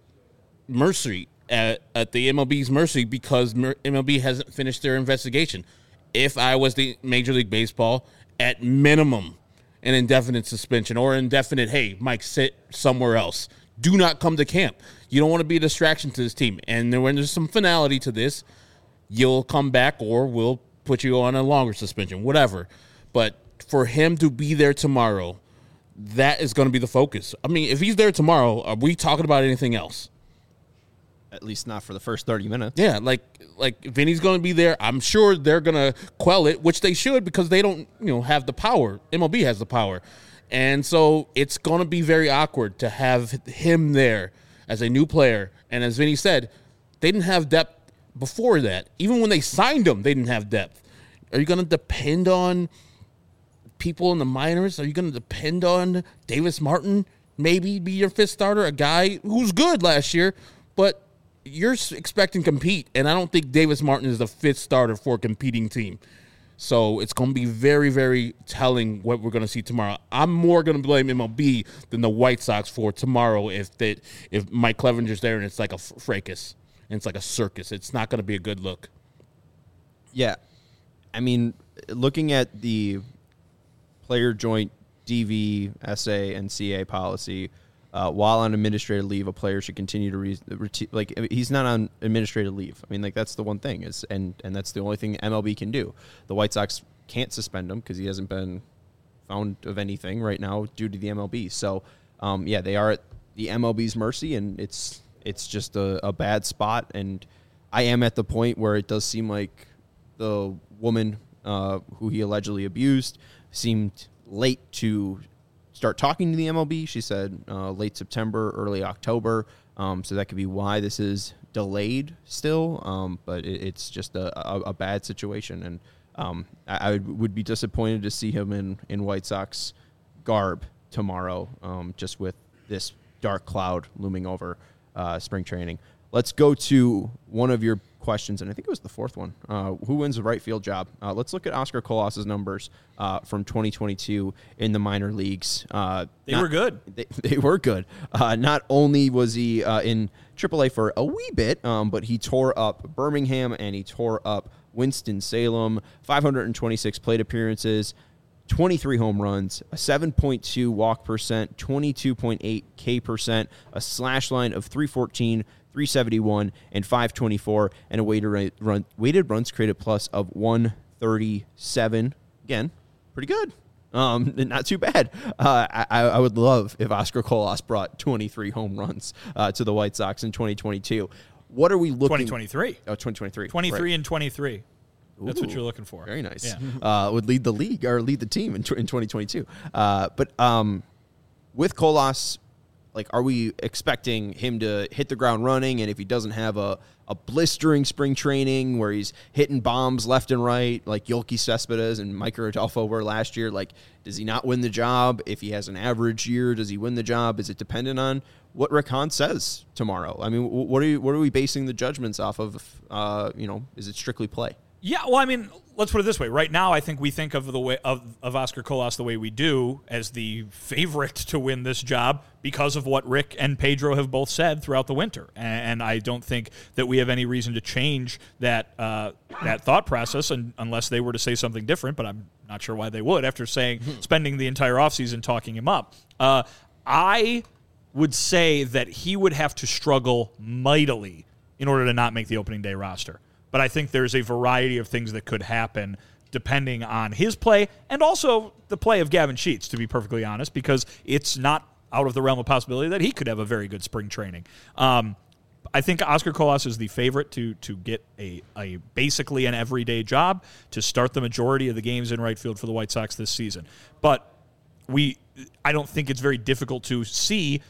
mercy, at, at the M L B's mercy because M L B hasn't finished their investigation. If I was the Major League Baseball, at minimum, an indefinite suspension or indefinite, hey, Mike, sit somewhere else. Do not come to camp. You don't want to be a distraction to this team. And when there's some finality to this, you'll come back or we'll put you on a longer suspension, whatever. But for him to be there tomorrow, that is going to be the focus. I mean, if he's there tomorrow, are we talking about anything else? At least not for the first thirty minutes. Yeah, like like Vinny's going to be there. I'm sure they're going to quell it, which they should because they don't, you know, have the power. M L B has the power. And so it's going to be very awkward to have him there as a new player. And as Vinny said, they didn't have depth before that. Even when they signed him, they didn't have depth. Are you going to depend on people in the minors? Are you going to depend on Davis Martin maybe be your fifth starter, a guy who's good last year, but you're expecting to compete, and I don't think Davis Martin is the fifth starter for a competing team. So it's going to be very, very telling what we're going to see tomorrow. I'm more going to blame M L B than the White Sox for tomorrow if they, if Mike Clevenger's there and it's like a fracas and it's like a circus. It's not going to be a good look. Yeah. I mean, looking at the player joint D V, S A, and C A policy, uh, while on administrative leave, a player should continue to re- re- like he's not on administrative leave. I mean, like that's the one thing is, and and that's the only thing M L B can do. The White Sox can't suspend him because he hasn't been found of anything right now due to the M L B. So, um, yeah, they are at the M L B's mercy, and it's it's just a, a bad spot. And I am at the point where it does seem like the woman uh, who he allegedly abused seemed late to start talking to the M L B. She said uh, late September, early October. Um, so that could be why this is delayed still. Um, but it, it's just a, a, a bad situation. And um, I, I would be disappointed to see him in, in White Sox garb tomorrow, um, just with this dark cloud looming over uh, spring training. Let's go to one of your questions, and I think it was the fourth one. Uh, who wins the right field job? Uh, let's look at Oscar Colas' numbers uh, from twenty twenty-two in the minor leagues. Uh, They not, were good. They, they were good. Uh, not only was he uh, in triple A for a wee bit, um, but he tore up Birmingham and he tore up Winston-Salem. five hundred twenty-six plate appearances, twenty-three home runs, a seven point two walk percent, twenty-two point eight K percent, a slash line of three fourteen, three seventy-one, and five twenty-four, and a weighted, run, weighted runs created plus of one thirty-seven. Again, pretty good. Um, not too bad. Uh, I, I would love if Oscar Colas brought twenty-three home runs uh, to the White Sox in twenty twenty-two. What are we looking? twenty twenty-three. Oh, twenty twenty-three. twenty-three right. and twenty-three. That's what Ooh, you're looking for. Very nice. Yeah. Uh, would lead the league or lead the team in, in twenty twenty-two. Uh, but um, with Colas, like, are we expecting him to hit the ground running? And if he doesn't have a, a blistering spring training where he's hitting bombs left and right, like Yoelqui Cespedes and Mike Rodolfo were last year, like, does he not win the job? If he has an average year, does he win the job? Is it dependent on what Rick Hahn says tomorrow? I mean, what are you, what are we basing the judgments off of? Uh, you know, is it strictly play? Yeah, well, I mean, let's put it this way. Right now, I think we think of the way of, of Oscar Colas the way we do, as the favorite to win this job because of what Rick and Pedro have both said throughout the winter. And, and I don't think that we have any reason to change that uh, that thought process, and, unless they were to say something different. But I'm not sure why they would after saying spending the entire offseason talking him up. Uh, I would say that he would have to struggle mightily in order to not make the opening day roster. But I think there's a variety of things that could happen depending on his play and also the play of Gavin Sheets, to be perfectly honest, because it's not out of the realm of possibility that he could have a very good spring training. Um, I think Oscar Colas is the favorite to to get a, a basically an everyday job, to start the majority of the games in right field for the White Sox this season. But we, I don't think it's very difficult to see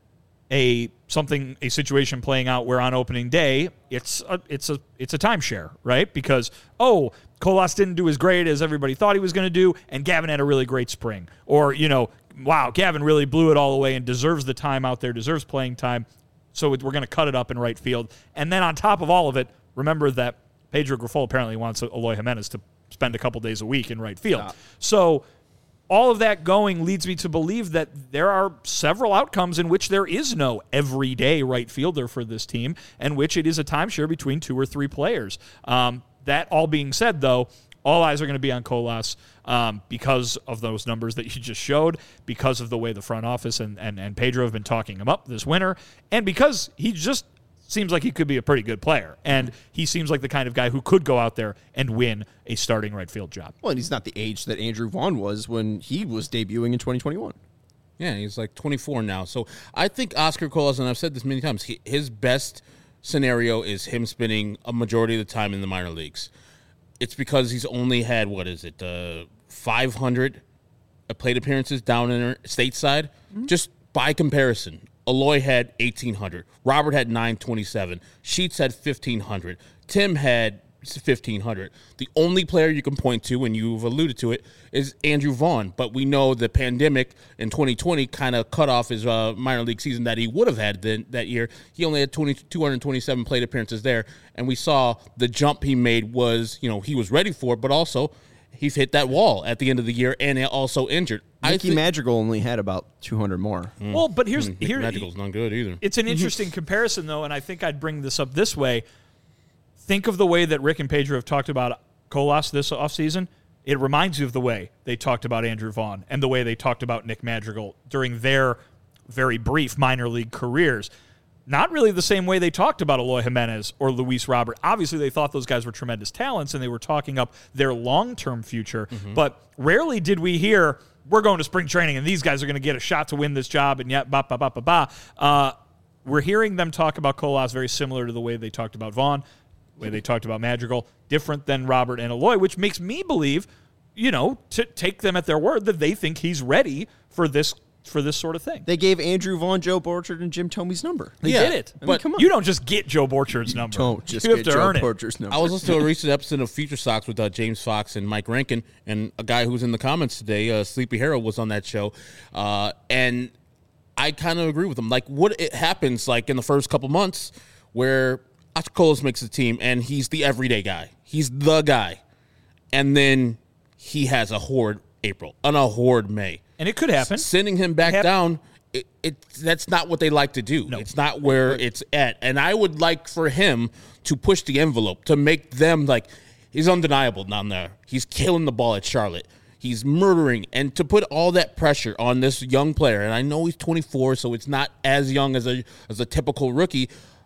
a something a situation playing out where on opening day it's a it's a it's a timeshare, right? Because oh, Colas didn't do as great as everybody thought he was going to do, and Gavin had a really great spring, or you know, wow, Gavin really blew it all away and deserves the time out there, deserves playing time, so we're going to cut it up in right field. And then on top of all of it, remember that Pedro Grifol apparently wants Eloy Jimenez to spend a couple days a week in right field, yeah. So all of that going leads me to believe that there are several outcomes in which there is no everyday right fielder for this team, and which it is a timeshare between two or three players. Um, that all being said, though, all eyes are going to be on Colas um, because of those numbers that you just showed, because of the way the front office and, and, and Pedro have been talking him up this winter, and because he just seems like he could be a pretty good player, and he seems like the kind of guy who could go out there and win a starting right field job. Well, and he's not the age that Andrew Vaughn was when he was debuting in twenty twenty-one. Yeah, he's like twenty-four now. So I think Oscar Colas, and I've said this many times, he, his best scenario is him spending a majority of the time in the minor leagues. It's because he's only had, what is it, uh, five hundred plate appearances down in stateside. Mm-hmm. Just by comparison, Eloy had eighteen hundred. Robert had nine twenty-seven. Sheets had fifteen hundred. Tim had fifteen hundred. The only player you can point to, and you've alluded to it, is Andrew Vaughn. But we know the pandemic in twenty twenty kind of cut off his uh, minor league season that he would have had then, that year. He only had two hundred twenty-seven plate appearances there. And we saw the jump he made was, you know, he was ready for it, but also he's hit that wall at the end of the year and also injured. Mickey th- Madrigal only had about two hundred more. Mm. Well, but here's mm, here Madrigal's not good either. It's an interesting comparison, though, and I think I'd bring this up this way. Think of the way that Rick and Pedro have talked about Colas this offseason. It reminds you of the way they talked about Andrew Vaughn and the way they talked about Nick Madrigal during their very brief minor league careers. Not really the same way they talked about Eloy Jimenez or Luis Robert. Obviously, they thought those guys were tremendous talents, and they were talking up their long-term future. Mm-hmm. But rarely did we hear, we're going to spring training, and these guys are going to get a shot to win this job, and yet, ba, ba, ba, ba, ba. Uh, we're hearing them talk about Colas very similar to the way they talked about Vaughn, the way they talked about Madrigal, different than Robert and Eloy, which makes me believe, you know, to take them at their word that they think he's ready for this for this sort of thing. They gave Andrew Vaughn, Joe Borchard, and Jim Thomey's number. They yeah, did it. I but mean, come on. You don't just get Joe Borchard's number. You don't just you get have to Joe earn Borchard's it. number. I was listening to a recent episode of Future Sox with uh, James Fox and Mike Rankin, and a guy who's in the comments today, uh, Sleepy Harold, was on that show. Uh, and I kind of agree with him. Like, what it happens, like, in the first couple months where Oscar Colas makes the team, and he's the everyday guy. He's the guy. And then he has a horrid April and a horrid May. And it could happen. S- sending him back Hap- down, it, it that's not what they like to do. No. It's not where it's at. And I would like for him to push the envelope, to make them, like, he's undeniable down there. He's killing the ball at Charlotte. He's murdering. And to put all that pressure on this young player, and I know he's twenty-four, so it's not as young as a as a typical rookie,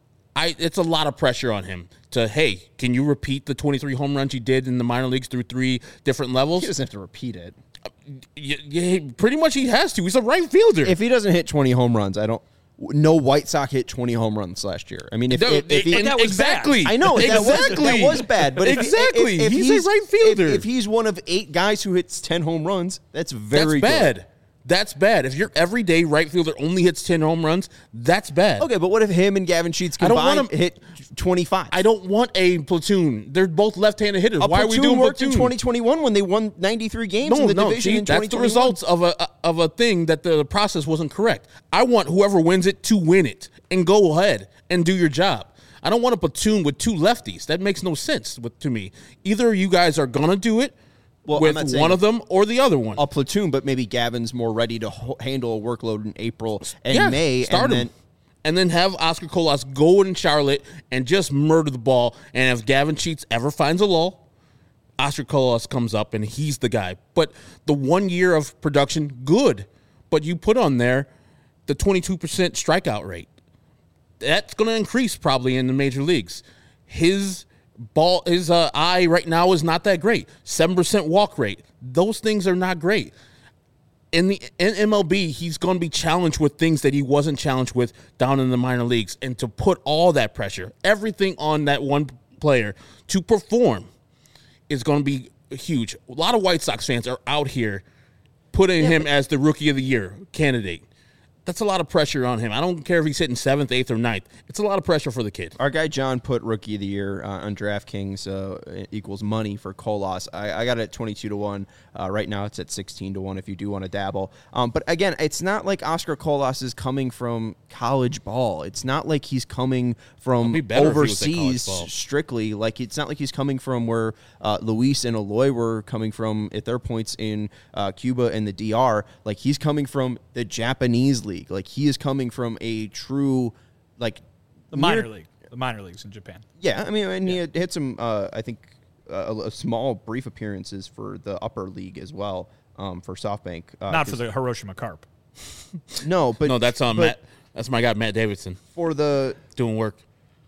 I, it's a lot of pressure on him to, hey, can you repeat the twenty-three home runs you did in the minor leagues through three different levels? He doesn't have to repeat it. Yeah, yeah, pretty much he has to. He's a right fielder. If he doesn't hit twenty home runs, I don't. No White Sox hit twenty home runs last year. I mean, if, no, if, if he, and that was exactly, bad. I know exactly. that was, that was bad, but if, exactly, if, if he's, he's a right fielder. If, if he's one of eight guys who hits ten home runs, that's very that's bad. good. That's bad. If your everyday right fielder only hits ten home runs, that's bad. Okay, but what if him and Gavin Sheets I don't combined want him- hit twenty-five? I don't want a platoon. They're both left-handed hitters. A Why are we platoon doing worked platoon? in twenty twenty-one when they won ninety-three games No, in the no, division see, in that's the twenty twenty-one. results of a of a thing that the process wasn't correct. I want whoever wins it to win it and go ahead and do your job. I don't want a platoon with two lefties. That makes no sense with, to me. Either you guys are going to do it Well, I'm with not one saying of them or the other one. a platoon, but maybe Gavin's more ready to ho- handle a workload in April and yeah, May. start and him. then And then have Oscar Colas go in Charlotte and just murder the ball. And if Gavin Sheets ever finds a lull, Oscar Colas comes up and he's the guy. But the one year of production, good. But you put on there the twenty-two percent strikeout rate. That's going to increase probably in the major leagues. His ball, his uh, eye right now is not that great. seven percent walk rate. Those things are not great. In the in M L B, he's going to be challenged with things that he wasn't challenged with down in the minor leagues. And to put all that pressure, everything on that one player to perform is going to be huge. A lot of White Sox fans are out here putting yeah, him as the Rookie of the Year candidate. That's a lot of pressure on him. I don't care if he's hitting seventh, eighth, or ninth. It's a lot of pressure for the kid. Our guy John put Rookie of the Year uh, on DraftKings uh, equals money for Colas. I, I got it at twenty-two to one. Uh, right now it's at sixteen to one if you do want to dabble. Um, but again, it's not like Oscar Colas is coming from college ball. It's not like he's coming from overseas strictly. Like it's not like he's coming from where uh, Luis and Eloy were coming from at their points in uh, Cuba and the D R. Like he's coming from the Japanese league. Like he is coming from a true, like the minor near, league, the minor leagues in Japan. Yeah, I mean, and yeah. he had, had some, uh, I think, uh, a, a small brief appearances for the upper league as well um, for SoftBank. Uh, Not for the Hiroshima Carp. No, but no, that's on Matt. That's my guy Matt Davidson for the doing work.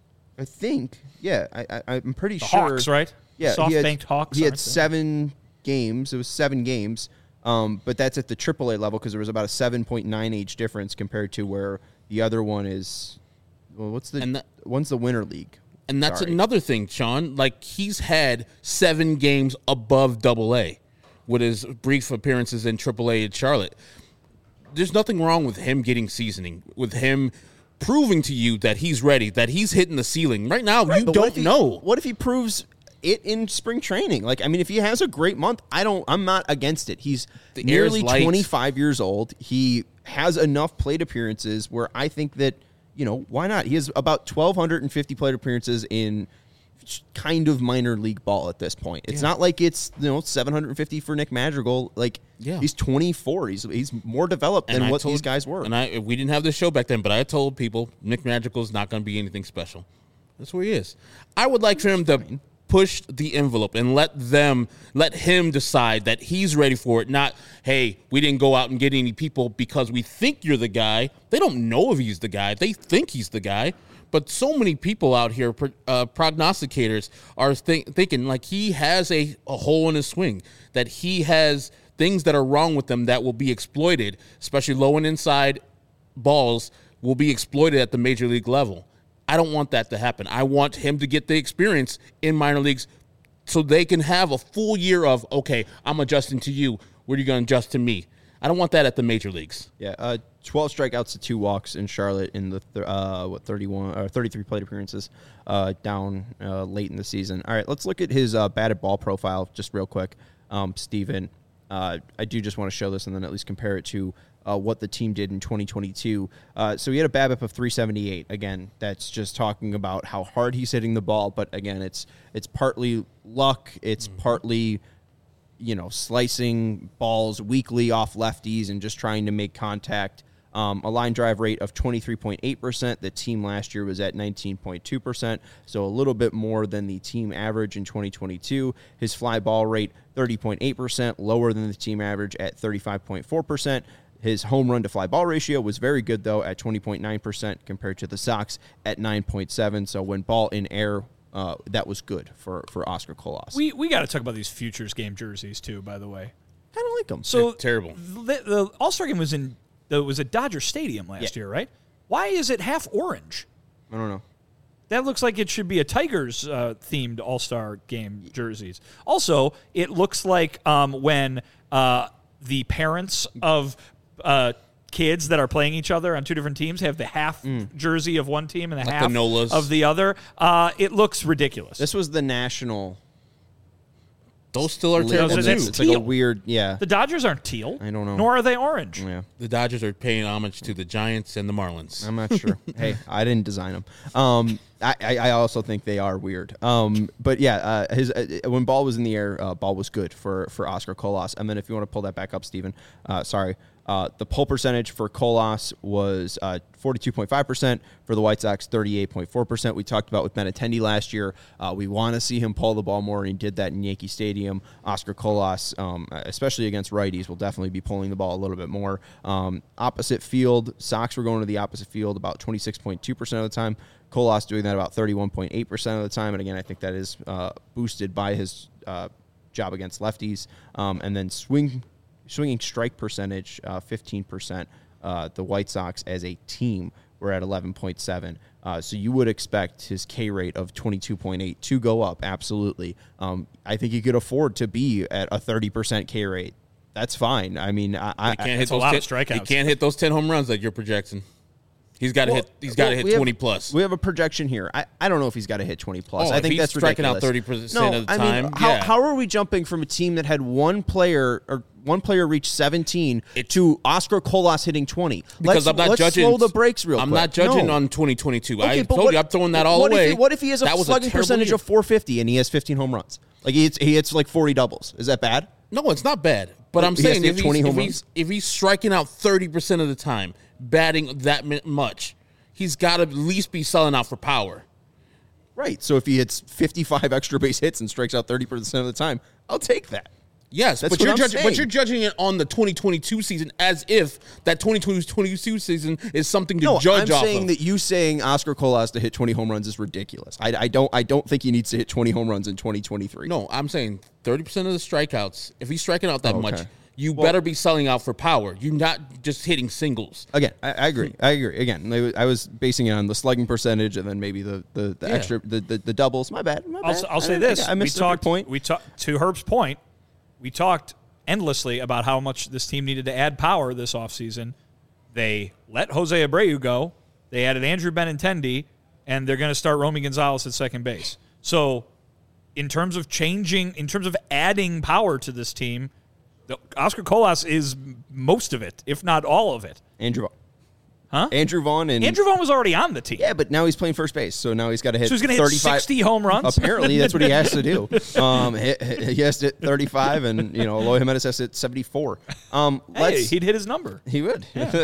I think, yeah, I, I I'm pretty the sure. Hawks, right? Yeah, SoftBank Hawks. He had seven games. It was seven games. Um, but that's at the triple A level because there was about a seven point nine age difference compared to where the other one is. Well, what's the? And that, one's the Winter League. And that's Sorry. another thing, Sean. Like he's had seven games above double A with his brief appearances in triple A in Charlotte. There's nothing wrong with him getting seasoning, with him proving to you that he's ready, that he's hitting the ceiling. Right now, right, you don't he, know. What if he proves it in spring training? Like, I mean, if he has a great month, I don't, I'm not against it. He's the nearly twenty-five years old. He has enough plate appearances where I think that, you know, why not? He has about twelve fifty plate appearances in kind of minor league ball at this point. It's yeah. not like it's, you know, seven hundred fifty for Nick Madrigal. Like, yeah. he's twenty-four. He's he's more developed than what told, these guys were. And I we didn't have this show back then, but I told people Nick Madrigal's not going to be anything special. That's where he is. I would like for him to push the envelope and let them, let him decide that he's ready for it. Not, hey, we didn't go out and get any people because we think you're the guy. They don't know if he's the guy. They think he's the guy. But so many people out here, uh, prognosticators, are think, thinking like he has a, a hole in his swing, that he has things that are wrong with him that will be exploited, especially low and inside balls will be exploited at the major league level. I don't want that to happen. I want him to get the experience in minor leagues so they can have a full year of, okay, I'm adjusting to you. What are you going to adjust to me? I don't want that at the major leagues. Yeah, uh, twelve strikeouts to two walks in Charlotte in the th- uh, what thirty-one or thirty-three plate appearances uh, down uh, late in the season. All right, let's look at his uh, batted ball profile just real quick, um, Steven. Uh, I do just want to show this and then at least compare it to uh, what the team did in twenty twenty-two. Uh, so he had a BABIP of three seventy-eight. Again, that's just talking about how hard he's hitting the ball. But again, it's it's partly luck. It's mm-hmm. partly, you know, slicing balls weakly off lefties and just trying to make contact. Um, a line drive rate of twenty-three point eight percent. The team last year was at nineteen point two percent, so a little bit more than the team average in twenty twenty-two. His fly ball rate, thirty point eight percent, lower than the team average at thirty-five point four percent. His home run to fly ball ratio was very good, though, at twenty point nine percent compared to the Sox at nine point seven. So when ball in air, uh, that was good for, for Oscar Colas. We we got to talk about these futures game jerseys, too, by the way. I don't like them. So They're terrible. The, the All-Star game was in it was at Dodger Stadium last yeah. year, right? Why is it half orange? I don't know. That looks like it should be a Tigers-themed uh, All-Star game jerseys. Also, it looks like um, when uh, the parents of uh, kids that are playing each other on two different teams have the half mm. jersey of one team and the like half the of the other. Uh, it looks ridiculous. This was the national. Those still are lit. terrible, Those too. are- It's, that's like a teal. weird, yeah. The Dodgers aren't teal. I don't know. Nor are they orange. yeah. The Dodgers are paying homage to the Giants and the Marlins. I'm not sure. Hey, I didn't design them. Um, I, I I also think they are weird. Um, but yeah, uh, his uh, when ball was in the air, uh, ball was good for for Oscar Colas. And then if you want to pull that back up, Steven, uh, sorry. Uh, the pull percentage for Colas was uh, forty-two point five percent. For the White Sox, thirty-eight point four percent. We talked about with Benintendi last year. Uh, we want to see him pull the ball more, and he did that in Yankee Stadium. Oscar Colas, um, especially against righties, will definitely be pulling the ball a little bit more. Um, opposite field, Sox were going to the opposite field about twenty-six point two percent of the time. Colas doing that about thirty-one point eight percent of the time. And again, I think that is uh, boosted by his uh, job against lefties. Um, and then swing... Swinging strike percentage, uh, fifteen percent. Uh, the White Sox as a team were at eleven point seven. Uh, so you would expect his K rate of twenty-two point eight to go up, absolutely. Um, I think he could afford to be at a thirty percent K rate. That's fine. I mean, I, I He can't hit That's a those lot ten, of strikeouts. He can't hit those ten home runs like you're projecting. He's got to Well, hit. He's got to well, hit we have- twenty plus. We have a projection here. I, I don't know if he's got to hit twenty plus. Oh, I if think he's that's striking out ridiculous. thirty percent no, of the I time, mean, how, yeah. how are we jumping from a team that had one player or one player reach seventeen It- to Oscar Colas hitting twenty? Because let's, I'm not let's judging. slow the brakes real I'm quick. not judging No. on twenty twenty-two. Okay, I but told what- you, I'm throwing that all what away. If he, what if he has a That was slugging terrible percentage year. of four fifty and he has fifteen home runs? Like he hits, he hits like forty doubles. Is that bad? No, it's not bad. But I'm He has saying to if hit he's, twenty if, home he's, if he's striking out thirty percent of the time, batting that mi- much, he's got to at least be selling out for power. Right. So if he hits fifty-five extra base hits and strikes out thirty percent of the time, I'll take that. Yes, That's but what you're I'm judging. saying. But you're judging it on the twenty twenty-two season as if that twenty twenty-two season is something to No, judge I'm off saying of. that you saying Oscar Colas to hit twenty home runs is ridiculous. I, I don't I don't think he needs to hit twenty home runs in twenty twenty-three. No, I'm saying thirty percent of the strikeouts. If he's striking out that Okay. much, you Well- better be selling out for power. You're not just hitting singles. Again, I, I agree. I agree. Again, I was- I was basing it on the slugging percentage and then maybe the the, the Yeah. extra the, the, the doubles. My bad. My I'll, bad. s- I'll say I, this: I, I we missed your talked. point. We talked to Herb's point. We talked endlessly about how much this team needed to add power this offseason. They let Jose Abreu go. They added Andrew Benintendi, and they're going to start Romy Gonzalez at second base. So, in terms of changing, in terms of adding power to this team, the, Oscar Colas is most of it, if not all of it. Andrew Vaughn. Huh? Andrew Vaughn and Andrew Vaughn was already on the team. Yeah, but now he's playing first base, so now he's got to hit. So he's going to hit thirty-five sixty home runs? Apparently, that's what he has to do. Um, he, he has to hit thirty-five, and you know, Eloy Jimenez has to hit seventy-four. Um, Hey, let's he'd hit his number. he would.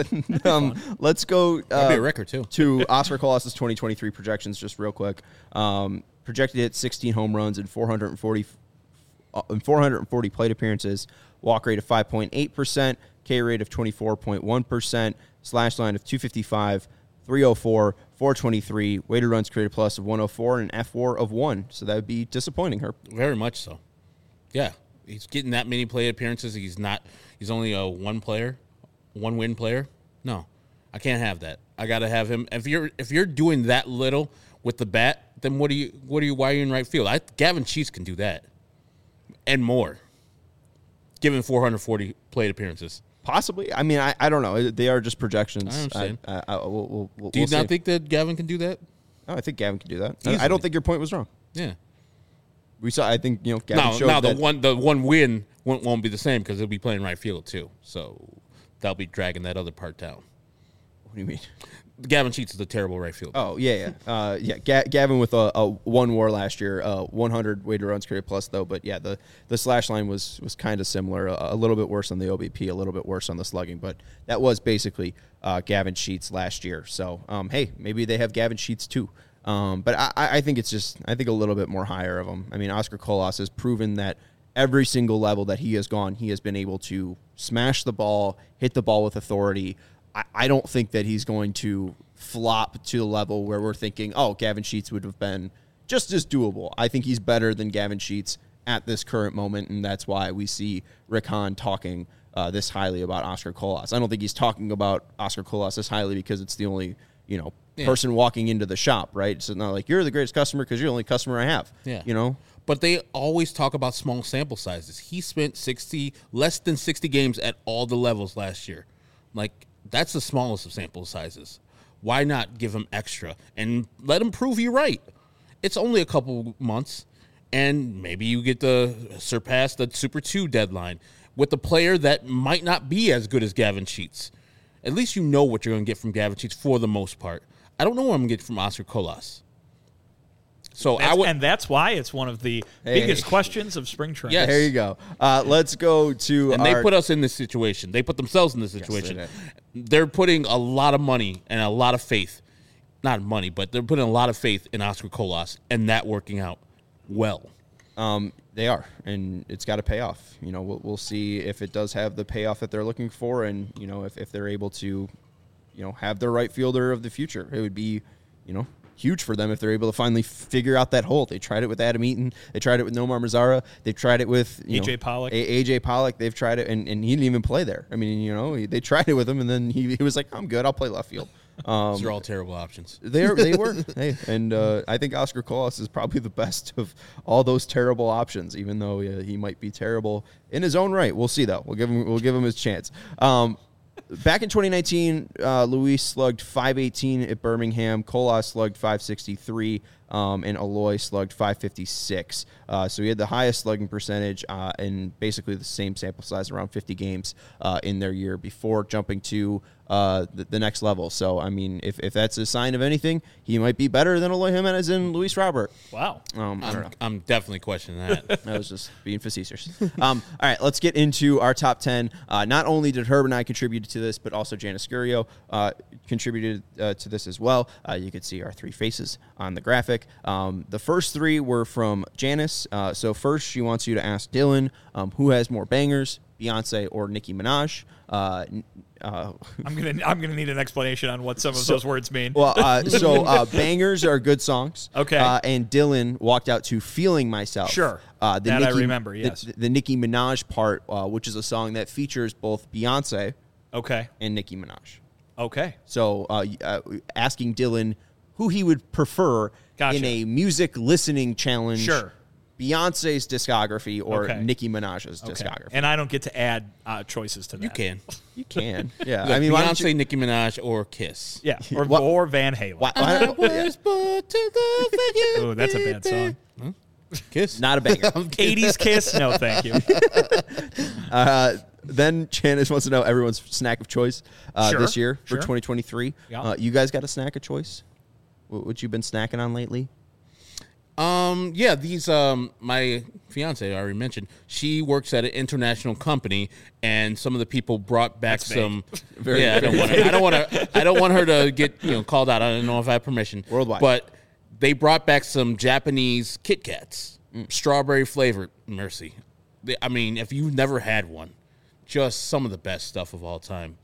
um, let's go. That'd be uh, a record too. to Oscar Colas' twenty twenty-three projections, just real quick. Um, projected to hit sixteen home runs and four hundred forty uh, and four hundred forty plate appearances. Walk rate of five point eight percent. K rate of twenty-four point one percent. Slash line of two fifty-five, three oh four, four twenty-three. Weighted runs created plus of one oh four and an F W A R of one. So that would be disappointing, Herb. Very much so. Yeah, he's getting that many play appearances. He's not. He's only a one player, one win player. No, I can't have that. I got to have him. If you're if you're doing that little with the bat, then what do you what are you why are you in right field? I, Gavin Sheets can do that and more. Given four hundred forty plate appearances. Possibly. I mean, I, I don't know. They are just projections. I understand. I, I, I, we'll, we'll, we'll, Do you we'll not see. think that Gavin can do that? Oh, I think Gavin can do that. I, I Easily. don't think your point was wrong. Yeah. We saw. I think you know. Gavin Now, showed now the that, one the one win won't, won't be the same because he'll be playing right field too. So that'll be dragging that other part down. What do you mean? Gavin Sheets is a terrible right fielder. Oh yeah, yeah, uh, yeah. Ga- Gavin with a, a one WAR last year, uh, one hundred weighted runs created plus though. But yeah, the, the slash line was was kind of similar, a, a little bit worse on the O B P, a little bit worse on the slugging. But that was basically uh, Gavin Sheets last year. So um, hey, maybe they have Gavin Sheets too. Um, but I, I think it's just I think a little bit more higher of them. I mean, Oscar Colas has proven that every single level that he has gone, he has been able to smash the ball, hit the ball with authority. I, I don't think that he's going to flop to the level where we're thinking, oh, Gavin Sheets would have been just as doable. I think he's better than Gavin Sheets at this current moment, and that's why we see Rick Hahn talking uh, this highly about Oscar Colas. I don't think he's talking about Oscar Colas this highly because it's the only, you know, Yeah. person walking into the shop, right? So it's not like you're the greatest customer because you're the only customer I have. Yeah. You know? But they always talk about small sample sizes. He spent sixty, less than sixty games at all the levels last year. Like, that's the smallest of sample sizes. Why not give him extra and let him prove you right? It's only a couple months. and maybe you get to surpass the Super two deadline with a player that might not be as good as Gavin Sheets. At least you know what you're going to get from Gavin Sheets for the most part. I don't know what I'm going to get from Oscar Colas. So That's, I would, and that's why it's one of the Hey. biggest questions of spring training. Yes. There you go. Uh, let's go to and our, they put us in this situation. They put themselves in this situation. they They're putting a lot of money and a lot of faith, not money, but they're putting a lot of faith in Oscar Colas and that working out well. Um, they are, and it's got to pay off. You know, we'll, we'll see if it does have the payoff that they're looking for, and you know, if, if they're able to, you know, have their right fielder of the future. It would be, you know, huge for them if they're able to finally figure out that hole. They tried it with Adam Eaton. They tried it with Nomar Mazara. They've tried it with you A J know, Pollock. A J Pollock. They've tried it, and, and he didn't even play there. I mean, you know, he, they tried it with him, and then he, he was like, "I'm good. I'll play left field." Um, These are all terrible options. They are, they were, hey, and uh, I think Oscar Colas is probably the best of all those terrible options. Even though uh, he might be terrible in his own right, we'll see though. We'll give him, we'll give him his chance. Um, back in twenty nineteen, uh, Luis slugged five eighteen at Birmingham. Colas slugged five sixty-three. Um, and Aloy slugged five fifty-six. Uh, so he had the highest slugging percentage uh, in basically the same sample size, around fifty games uh, in their year before jumping to uh, the, the next level. So, I mean, if, if that's a sign of anything, he might be better than Aloy Jimenez and Luis Robert. Wow. Um, I don't I'm, know. I'm definitely questioning that. I was just being facetious. Um, all right, let's get into our top ten. Uh, not only did Herb and I contribute to this, but also Janice Scurio uh, contributed uh, to this as well. Uh, you could see our three faces on the graphic. Um, the first three were from Janice. Uh, so first, she wants you to ask Dylan um, who has more bangers, Beyonce or Nicki Minaj. Uh, uh, I'm gonna I'm gonna need an explanation on what some of So- those words mean. well, uh, so uh, bangers are good songs. Okay. Uh, and Dylan walked out to "Feeling Myself." Sure. Uh, the That I Nicki, remember, yes. The, the Nicki Minaj part, uh, which is a song that features both Beyonce okay. and Nicki Minaj. Okay. So, uh, uh, asking Dylan who he would prefer Gotcha. in a music listening challenge. Sure. Beyonce's discography or Okay. Nicki Minaj's Okay. discography. And I don't get to add uh, choices to that. You can. You can. Yeah. Look, I mean, why don't Beyonce, you, Nicki Minaj, or Kiss. Yeah. Or, What- or Van Halen. why, why, yeah. Oh, that's a bad song. Kiss. Not a banger. eighties Kiss? No, thank you. Uh, then Janice wants to know everyone's snack of choice uh, Sure, this year for sure. twenty twenty-three. Yeah. Uh, you guys got a snack of choice? What, what you been snacking on lately? Um, yeah, these, um, my fiance, I already mentioned, she works at an international company, and some of the people brought back That's vague. some. Very yeah, I don't want to. I don't want to. I don't want her to get you know called out. I don't know if I have permission. Worldwide. but they brought back some Japanese Kit Kats, Mm. strawberry flavored. Mercy, They- I mean, if you've never had one, just some of the best stuff of all time.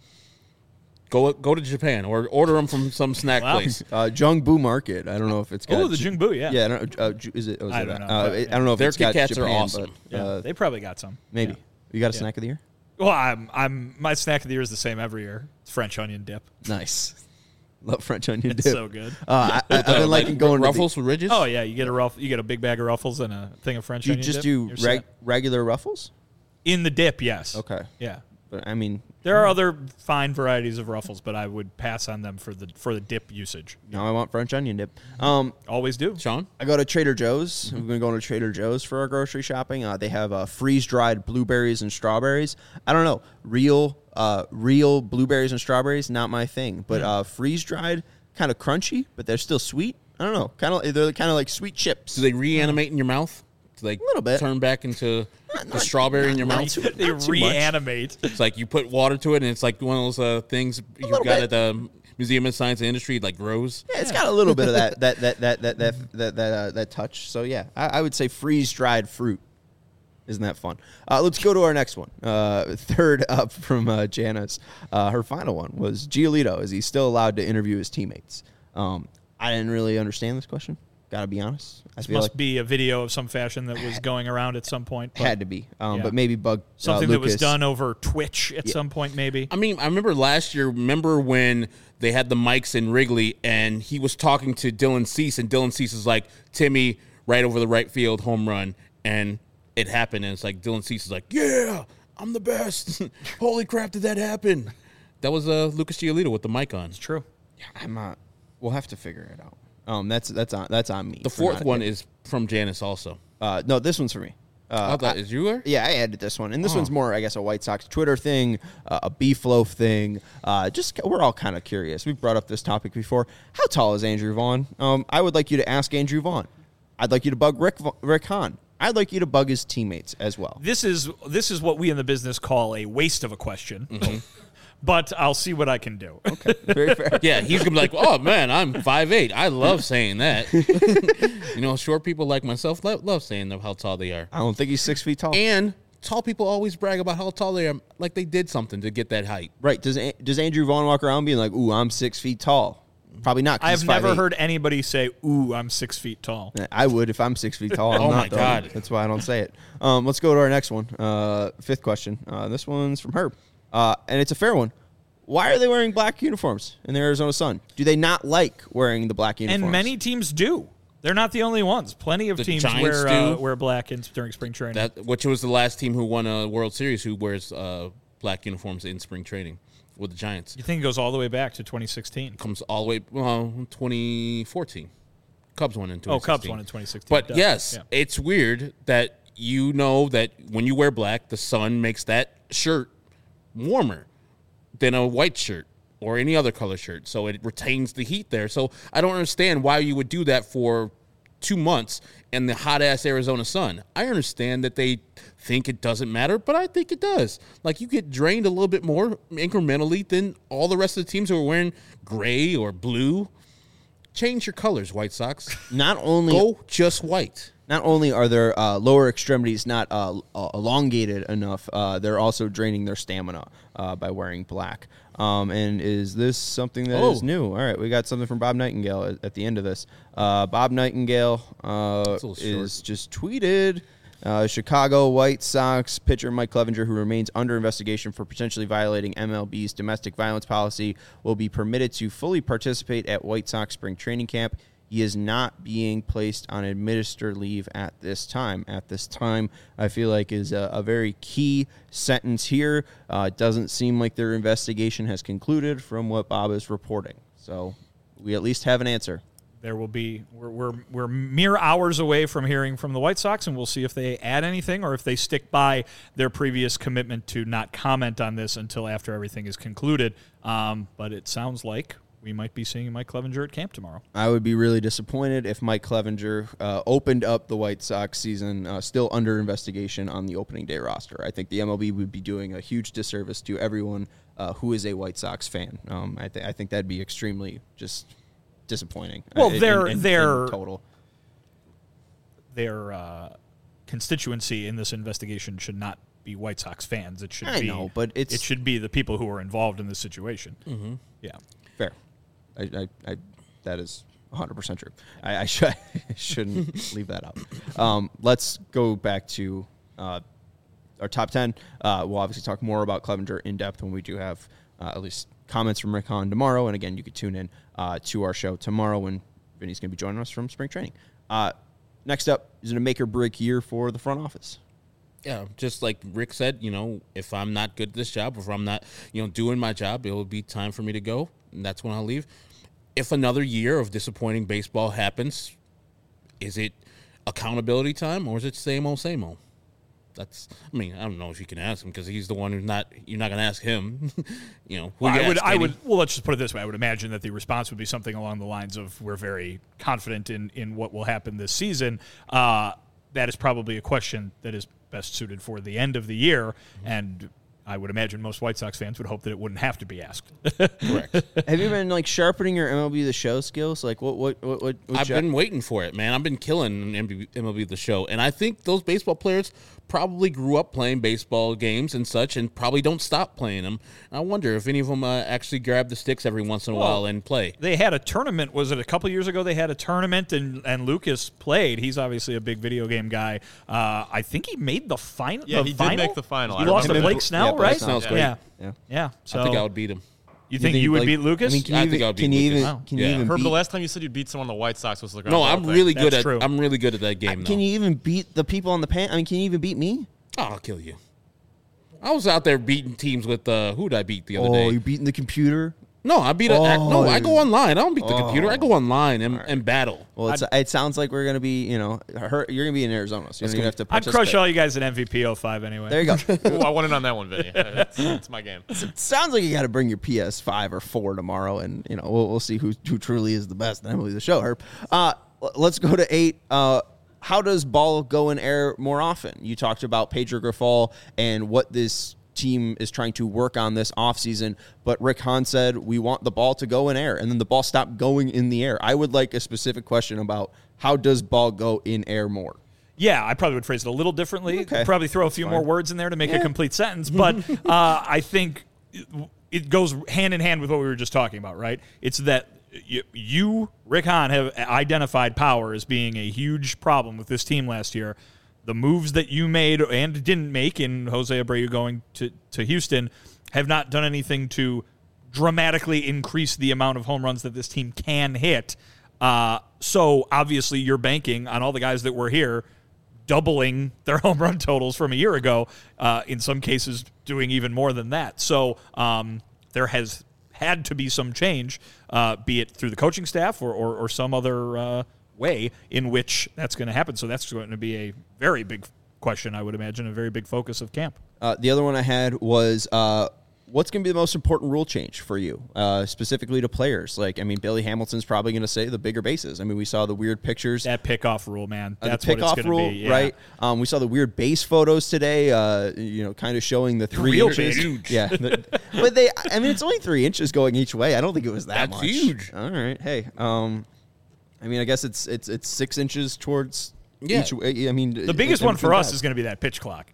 Go go to Japan or order them from some snack Wow. place. Uh, Jungbu Market. I don't know if it's got. Oh, the Jungbu, yeah. Yeah, I don't, uh, Ju- is it? Oh, is I it don't that? know, Uh, but, I don't know if Their it's got Kit Kats are Japan, awesome. but, Yeah, uh, they probably got some. maybe. Yeah. You got a Yeah. snack of the year? Well, I'm, I'm, my snack of the year is the same every year. It's French onion dip. Nice. Love French onion It's dip. so good. Uh, I, I've Uh, been liking going Ruffles to with ridges. Oh yeah, you get a ruff, you get a big bag of Ruffles and a thing of French the, you onion just dip. do You're reg, set. regular Ruffles? In the dip, yes. Okay. Yeah. But I mean, There are other fine varieties of Ruffles, but I would pass on them for the for the dip usage. now I want French onion dip. Um, Always do. Sean. I go to Trader Joe's. We've been going to Trader Joe's for our grocery shopping. Uh, they have uh, freeze-dried blueberries and strawberries. I don't know, real, uh, real blueberries and strawberries, not my thing. But uh, freeze-dried, kind of crunchy, but they're still sweet. I don't know, kind of they're kind of like sweet chips. Do they reanimate in your mouth? Do they little bit. turn back into the strawberry in your mouth? too- They not too much. reanimate. It's like you put water to it, and it's like one of those uh, things you little got bit. at the Museum of Science and Industry, like grows. Yeah, it's got a little bit of that that that that that that that that, uh, that touch. So yeah, I, I would say freeze-dried fruit. Isn't that fun? Uh, let's go to our next one. Uh, third up from uh, Janice. Uh, her final one was Giolito. Is he still allowed to interview his teammates? Um, I didn't really understand this question. Got to be honest. I This feel must like be a video of some fashion that was going around at some point. but had to be. Um, yeah. But maybe bug uh, something that was Lucas. done over Twitch at some point, maybe. I mean, I remember last year, remember when they had the mics in Wrigley, and he was talking to Dylan Cease, and Dylan Cease is like, Timmy, right over the right field, home run, and it happened, and it's like, Dylan Cease is like, yeah, I'm the best. Holy crap, did that happen? That was uh, Lucas Giolito with the mic on. It's true. I'm not. We'll have to figure it out. Um, that's that's on that's on me. The for fourth not- one is from Janice also. Uh, no, this one's for me. Uh, Oh, that is you were? Yeah, I added this one, and this Oh. one's more, I guess, a White Sox Twitter thing, uh, a beef loaf thing. Uh, just we're all kind of curious. We've brought up this topic before. How tall is Andrew Vaughn? Um, I would like you to ask Andrew Vaughn. I'd like you to bug Rick Rick Hahn. I'd like you to bug his teammates as well. This is this is what we in the business call a waste of a question. Mm-hmm. But I'll see what I can do. Okay, very fair. Yeah, he's gonna be like, "Oh man, I'm five eight. I love saying that." You know, short people like myself love, love saying how tall they are. I don't think he's six feet tall. And tall people always brag about how tall they are, like they did something to get that height. Right? Does A- does Andrew Vaughn walk around being like, "Ooh, I'm six feet tall"? Probably not. 'Cause I have he's never five eight. heard anybody say, "Ooh, I'm six feet tall." I would if I'm six feet tall. I'm Oh not, my though. God. That's why I don't say it. Um, let's go to our next one. Uh, fifth question. Uh, this one's from Herb, uh, and it's a fair one. Why are they wearing black uniforms in the Arizona Sun? Do they not like wearing the black uniforms? And many teams do. They're not the only ones. Plenty of The teams Giants wear uh, do. wear black in, during spring training. That which was the last team who won a World Series who wears uh, black uniforms in spring training with the Giants. you think it goes all the way back to twenty sixteen? Comes all the way well, twenty fourteen. Cubs won in twenty sixteen. Oh, Cubs won in twenty sixteen. But Duh. yes, Yeah. it's weird that you know that when you wear black, the sun makes that shirt warmer than a white shirt or any other color shirt. So it retains the heat there. So I don't understand why you would do that for two months in the hot-ass Arizona sun. I understand that they think it doesn't matter, but I think it does. Like, you get drained a little bit more incrementally than all the rest of the teams who are wearing gray or blue. Change your colors, White Sox. Not only Go just white. not only are their uh, lower extremities not uh, uh, elongated enough, uh, they're also draining their stamina uh, by wearing black. Um, and is this something that is Oh. new? All right, we got something from Bob Nightingale at, at the end of this. Uh, Bob Nightingale uh, That's a little short. is just tweeted. Uh, Chicago White Sox pitcher Mike Clevenger, who remains under investigation for potentially violating M L B's domestic violence policy, will be permitted to fully participate at White Sox spring training camp. He is not being placed on administered leave at this time. At this time, I feel like is a, a very key sentence here. Uh, it doesn't seem like their investigation has concluded from what Bob is reporting. So we at least have an answer. There will be we're, we're we're mere hours away from hearing from the White Sox, and we'll see if they add anything or if they stick by their previous commitment to not comment on this until after everything is concluded. Um, but it sounds like we might be seeing Mike Clevenger at camp tomorrow. I would be really disappointed if Mike Clevenger uh, opened up the White Sox season uh, still under investigation on the opening day roster. I think the M L B would be doing a huge disservice to everyone uh, who is a White Sox fan. Um, I, th- I think that'd be extremely just disappointing. Well, uh, in- they're- in- in they're- total. Their uh, constituency in this investigation should not be White Sox fans. It should I be know, but it's- it should be the people who are involved in this situation. Mm-hmm. Yeah. Fair. I, I, I, that is one hundred percent true. I, I, sh- I shouldn't leave that out. Um, let's go back to uh, our top ten. Uh, we'll obviously talk more about Clevenger in depth when we do have uh, at least comments from Rick Hahn tomorrow. And again, you can tune in uh, to our show tomorrow when Vinny's going to be joining us from spring training. Uh, next up, is it a make or break year for the front office? Yeah, just like Rick said, you know, if I'm not good at this job, if I'm not, you know, doing my job, it will be time for me to go, and that's when I'll leave. If another year of disappointing baseball happens, is it accountability time or is it same old, same old? That's, I mean, I don't know if you can ask him because he's the one who's not, you're not going to ask him, you know. who Well, you I would, ask, I Kenny? would. Well, let's just put it this way. I would imagine that the response would be something along the lines of, "We're very confident in in what will happen this season." Uh, that is probably a question that is best suited for the end of the year, and I would imagine most White Sox fans would hope that it wouldn't have to be asked. Correct. Have you been like sharpening your M L B The Show skills? Like what? What? What? what, what I've jo- been waiting for it, man. I've been killing M L B The Show. And I think those baseball players probably grew up playing baseball games and such and probably don't stop playing them. I wonder if any of them uh, actually grab the sticks every once in a Well, while and play. They had a tournament. Was it a couple years ago? They had a tournament, and, and Lucas played. He's obviously a big video game guy. Uh, I think he made the final. Yeah, the he did final? make the final. He I lost to remember. Blake Snell, Yeah, Blake right? Snell's great. Yeah, Yeah. yeah. So I think I would beat him. You think think, you would like- beat Lucas? I mean, can I you think even, I would beat can you Lucas. even Wow. can you Yeah. even Herb, beat, the last time you said you beat someone on the White Sox was the No, I'm really good That's at true. I'm really good at that game. can though. you even beat the people on the pan? I mean, can you even beat me? Oh, I'll kill you. I was out there beating teams with uh, who did I beat the other Oh, day? you're beating the computer. No, I beat a Oh, no. I go online. I don't beat the oh. computer. I go online and, and battle. Well, it's, it sounds like we're gonna be, you know, her, you're gonna be in Arizona, so you don't even have to I'd participate. crush all you guys in M V P oh five anyway. There you go. Ooh, I won it on that one, Vinny. That's, that's my game. Sounds like you got to bring your P S five or four tomorrow, and you know we'll, we'll see who who truly is the best. And Emily, the show, Herb. Uh, l- let's go to eight. Uh, how does ball go in air more often? You talked about Pedro Grifol and what this team is trying to work on this offseason, but Rick Hahn said we want the ball to go in air, and then the ball stopped going in the air. I would like a specific question about how does ball go in air more? Yeah, I probably would phrase it a little differently. Okay. Probably throw a few more words in there to make a complete sentence. But uh, I think it, it goes hand in hand with what we were just talking about, right? It's that you, you, Rick Hahn, have identified power as being a huge problem with this team last year. The moves that you made and didn't make in Jose Abreu going to, to Houston have not done anything to dramatically increase the amount of home runs that this team can hit. Uh, so obviously you're banking on all the guys that were here doubling their home run totals from a year ago, uh, in some cases doing even more than that. So um, there has had to be some change, uh, be it through the coaching staff or, or, or some other uh, way in which that's going to happen. So that's going to be a very big question, I would imagine, a very big focus of camp. Uh, the other one I had was uh, what's going to be the most important rule change for you, uh, specifically to players? Like, I mean, Billy Hamilton's probably going to say the bigger bases. I mean, we saw the weird pictures. That pickoff rule, man. Uh, That's the what it's pickoff going to rule, be. Yeah. right? Um, we saw the weird base photos today. Uh, you know, kind of showing the three real inches. big. Yeah, the, but they. I mean, it's only three inches going each way. I don't think it was that That's much. huge. All right. Hey. Um, I mean, I guess it's it's it's six inches towards Yeah. each way. I mean, The biggest one for us is going to be that pitch clock.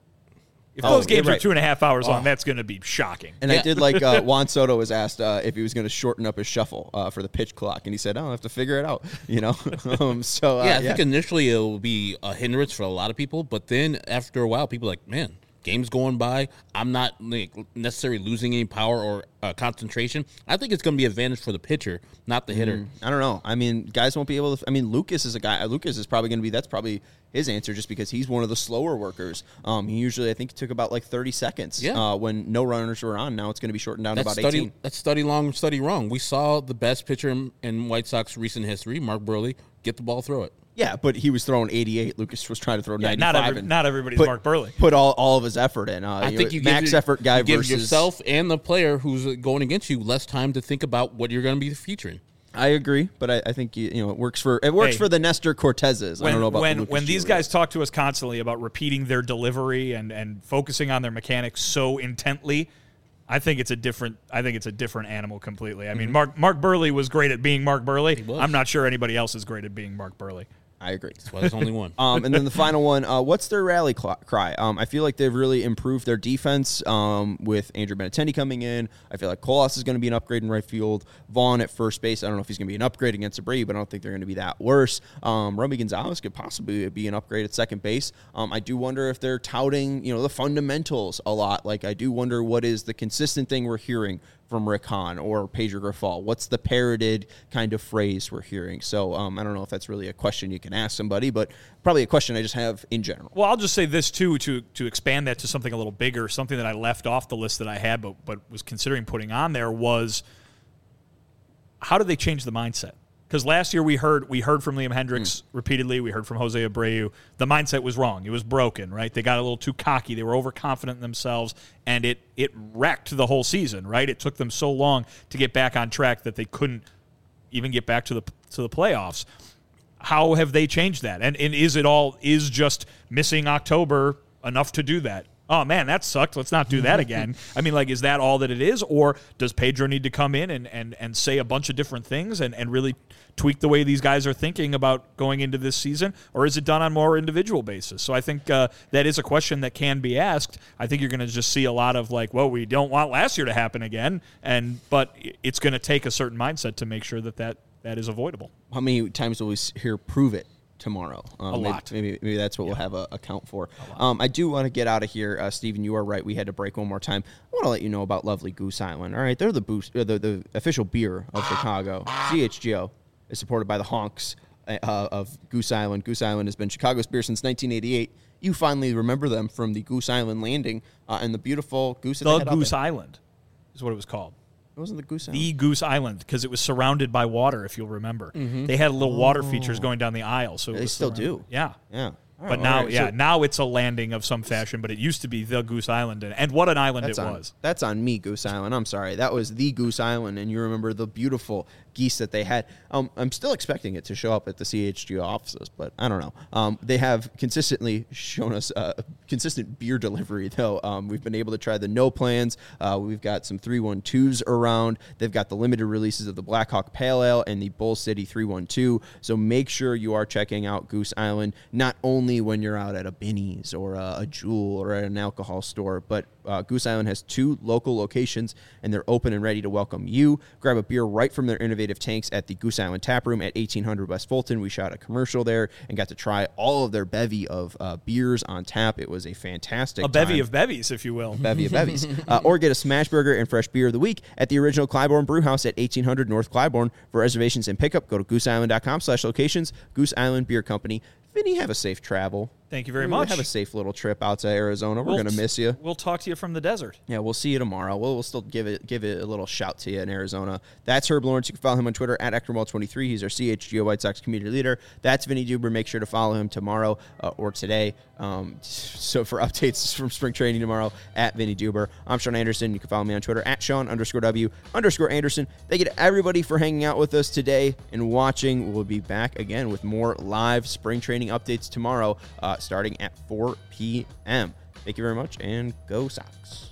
If Oh, those games yeah, are right. two and a half hours long, that's going to be shocking. And I Yeah. did like uh, Juan Soto was asked uh, if he was going to shorten up his shuffle uh, for the pitch clock, and he said, "Oh, I have to figure it out." You know, um, so uh, yeah, I think initially it will be a hindrance for a lot of people, but then after a while, people are like, man, game's going by. I'm not like, necessarily losing any power or uh, concentration. I think it's going to be an advantage for the pitcher, not the hitter. I don't know. I mean, guys won't be able to. I mean, Lucas is a guy. Lucas is probably going to be. That's probably his answer, just because he's one of the slower workers. Um, he usually, I think, he took about like thirty seconds. Yeah. Uh, when no runners were on. Now it's going to be shortened down That's to about study. eighteen. That's study long, study wrong. We saw the best pitcher in, in White Sox recent history, Mark Burley, get the ball, throw it. Yeah, but he was throwing eighty-eight. Lucas was trying to throw Yeah, ninety-five. not every, and not everybody's put, Mark Burley. Put all, all of his effort in. Uh, I you think know, you max give, effort guy you give versus yourself and the player who's going against you less time to think about what you're going to be featuring. I agree, but I, I think you, you know it works for it works Hey. for the Nestor Cortezes. I When, don't know about when, the Lucas when these Giolito. guys talk to us constantly about repeating their delivery and, and focusing on their mechanics so intently, I think it's a different. I think it's a different animal completely. I mean, Mm-hmm. Mark Mark Burley was great at being Mark Burley. was. I'm not sure anybody else is great at being Mark Burley. I agree. That's why there's only one. Um, and then the final one, uh, what's their rally cl- cry? Um, I feel like they've really improved their defense um, with Andrew Benintendi coming in. I feel like Colas is going to be an upgrade in right field. Vaughn at first base. I don't know if he's going to be an upgrade against Abreu, but I don't think they're going to be that worse. Um, Romy Gonzalez could possibly be an upgrade at second base. Um, I do wonder if they're touting, you know, the fundamentals a lot. Like, I do wonder what is the consistent thing we're hearing from Rick Hahn or Pedro Grifol. What's the parroted kind of phrase we're hearing? So um, I don't know if that's really a question you can ask somebody, but probably a question I just have in general. Well, I'll just say this too to to expand that to something a little bigger. Something that I left off the list that I had, but but was considering putting on there was how do they change the mindset? Because last year we heard we heard from Liam Hendricks mm. repeatedly. We heard from Jose Abreu. The mindset was wrong. It was broken, right? They got a little too cocky. They were overconfident in themselves, and it it wrecked the whole season, right? It took them so long to get back on track that they couldn't even get back to the to the playoffs. How have they changed that? And and is it all is just missing October enough to do that? Oh, man, that sucked. Let's not do that again. I mean, like, is that all that it is? Or does Pedro need to come in and, and, and say a bunch of different things and, and really tweak the way these guys are thinking about going into this season? Or is it done on more individual basis? So I think uh, that is a question that can be asked. I think you're going to just see a lot of, like, well, we don't want last year to happen again. and But it's going to take a certain mindset to make sure that that, that is avoidable. How many times will we hear prove it tomorrow? Um, A maybe, lot. Maybe maybe that's what we'll have a, a count for. Um, I do want to get out of here. Uh, Steven, you are right. We had to break one more time. I want to let you know about lovely Goose Island. All right, they're the, boost, uh, the, the official beer of Chicago. C H G O is supported by the honks uh, of Goose Island. Goose Island has been Chicago's beer since nineteen eighty-eight. You finally remember them from the Goose Island landing uh, and the beautiful goose that they The had out Goose there. Island is what it was called. It wasn't the Goose Island. The Goose Island, because it was surrounded by water, if you'll remember. Mm-hmm. They had little water features going down the aisle. So it They was still surrounded- do. Yeah. Yeah. But Oh, now, all right, yeah, so now it's a landing of some fashion, but it used to be the Goose Island. And, and what an island that's it on, was. That's on me, Goose Island. I'm sorry. That was the Goose Island, and you remember the beautiful geese that they had. Um, I'm still expecting it to show up at the C H G O offices, but I don't know. Um, they have consistently shown us uh, consistent beer delivery, though. Um, we've been able to try the no plans. Uh, we've got some three one twos around. They've got the limited releases of the Blackhawk Pale Ale and the Bull City three one two. So make sure you are checking out Goose Island, not only when you're out at a Binny's or a, a Jewel or at an alcohol store, but uh, Goose Island has two local locations, and they're open and ready to welcome you. Grab a beer right from their innovative tanks at the Goose Island Tap Room at eighteen hundred West Fulton. We shot a commercial there and got to try all of their bevy of uh, beers on tap. It was a fantastic A bevy time. of bevies, if you will. Bevy of bevies. Uh, or get a smash burger and fresh beer of the week at the original Clybourne Brew House at eighteen hundred North Clybourne. For reservations and pickup, go to gooseisland.com slash locations. Goose Island Beer Company. Vinny, have a safe travel. Thank you very Really much. Have a safe little trip out to Arizona. We're We'll going to t- miss you. We'll talk to you from the desert. Yeah, we'll see you tomorrow. We'll, we'll still give it give it a little shout to you in Arizona. That's Herb Lawrence. You can follow him on Twitter at Ectorwall twenty-three. He's our C H G O White Sox community leader. That's Vinny Duber. Make sure to follow him tomorrow uh, or today. Um, so for updates from spring training tomorrow, at Vinny Duber. I'm Sean Anderson. You can follow me on Twitter at Sean underscore W underscore Anderson. Thank you to everybody for hanging out with us today and watching. We'll be back again with more live spring training updates tomorrow, uh, starting at four p.m. Thank you very much, and go Sox.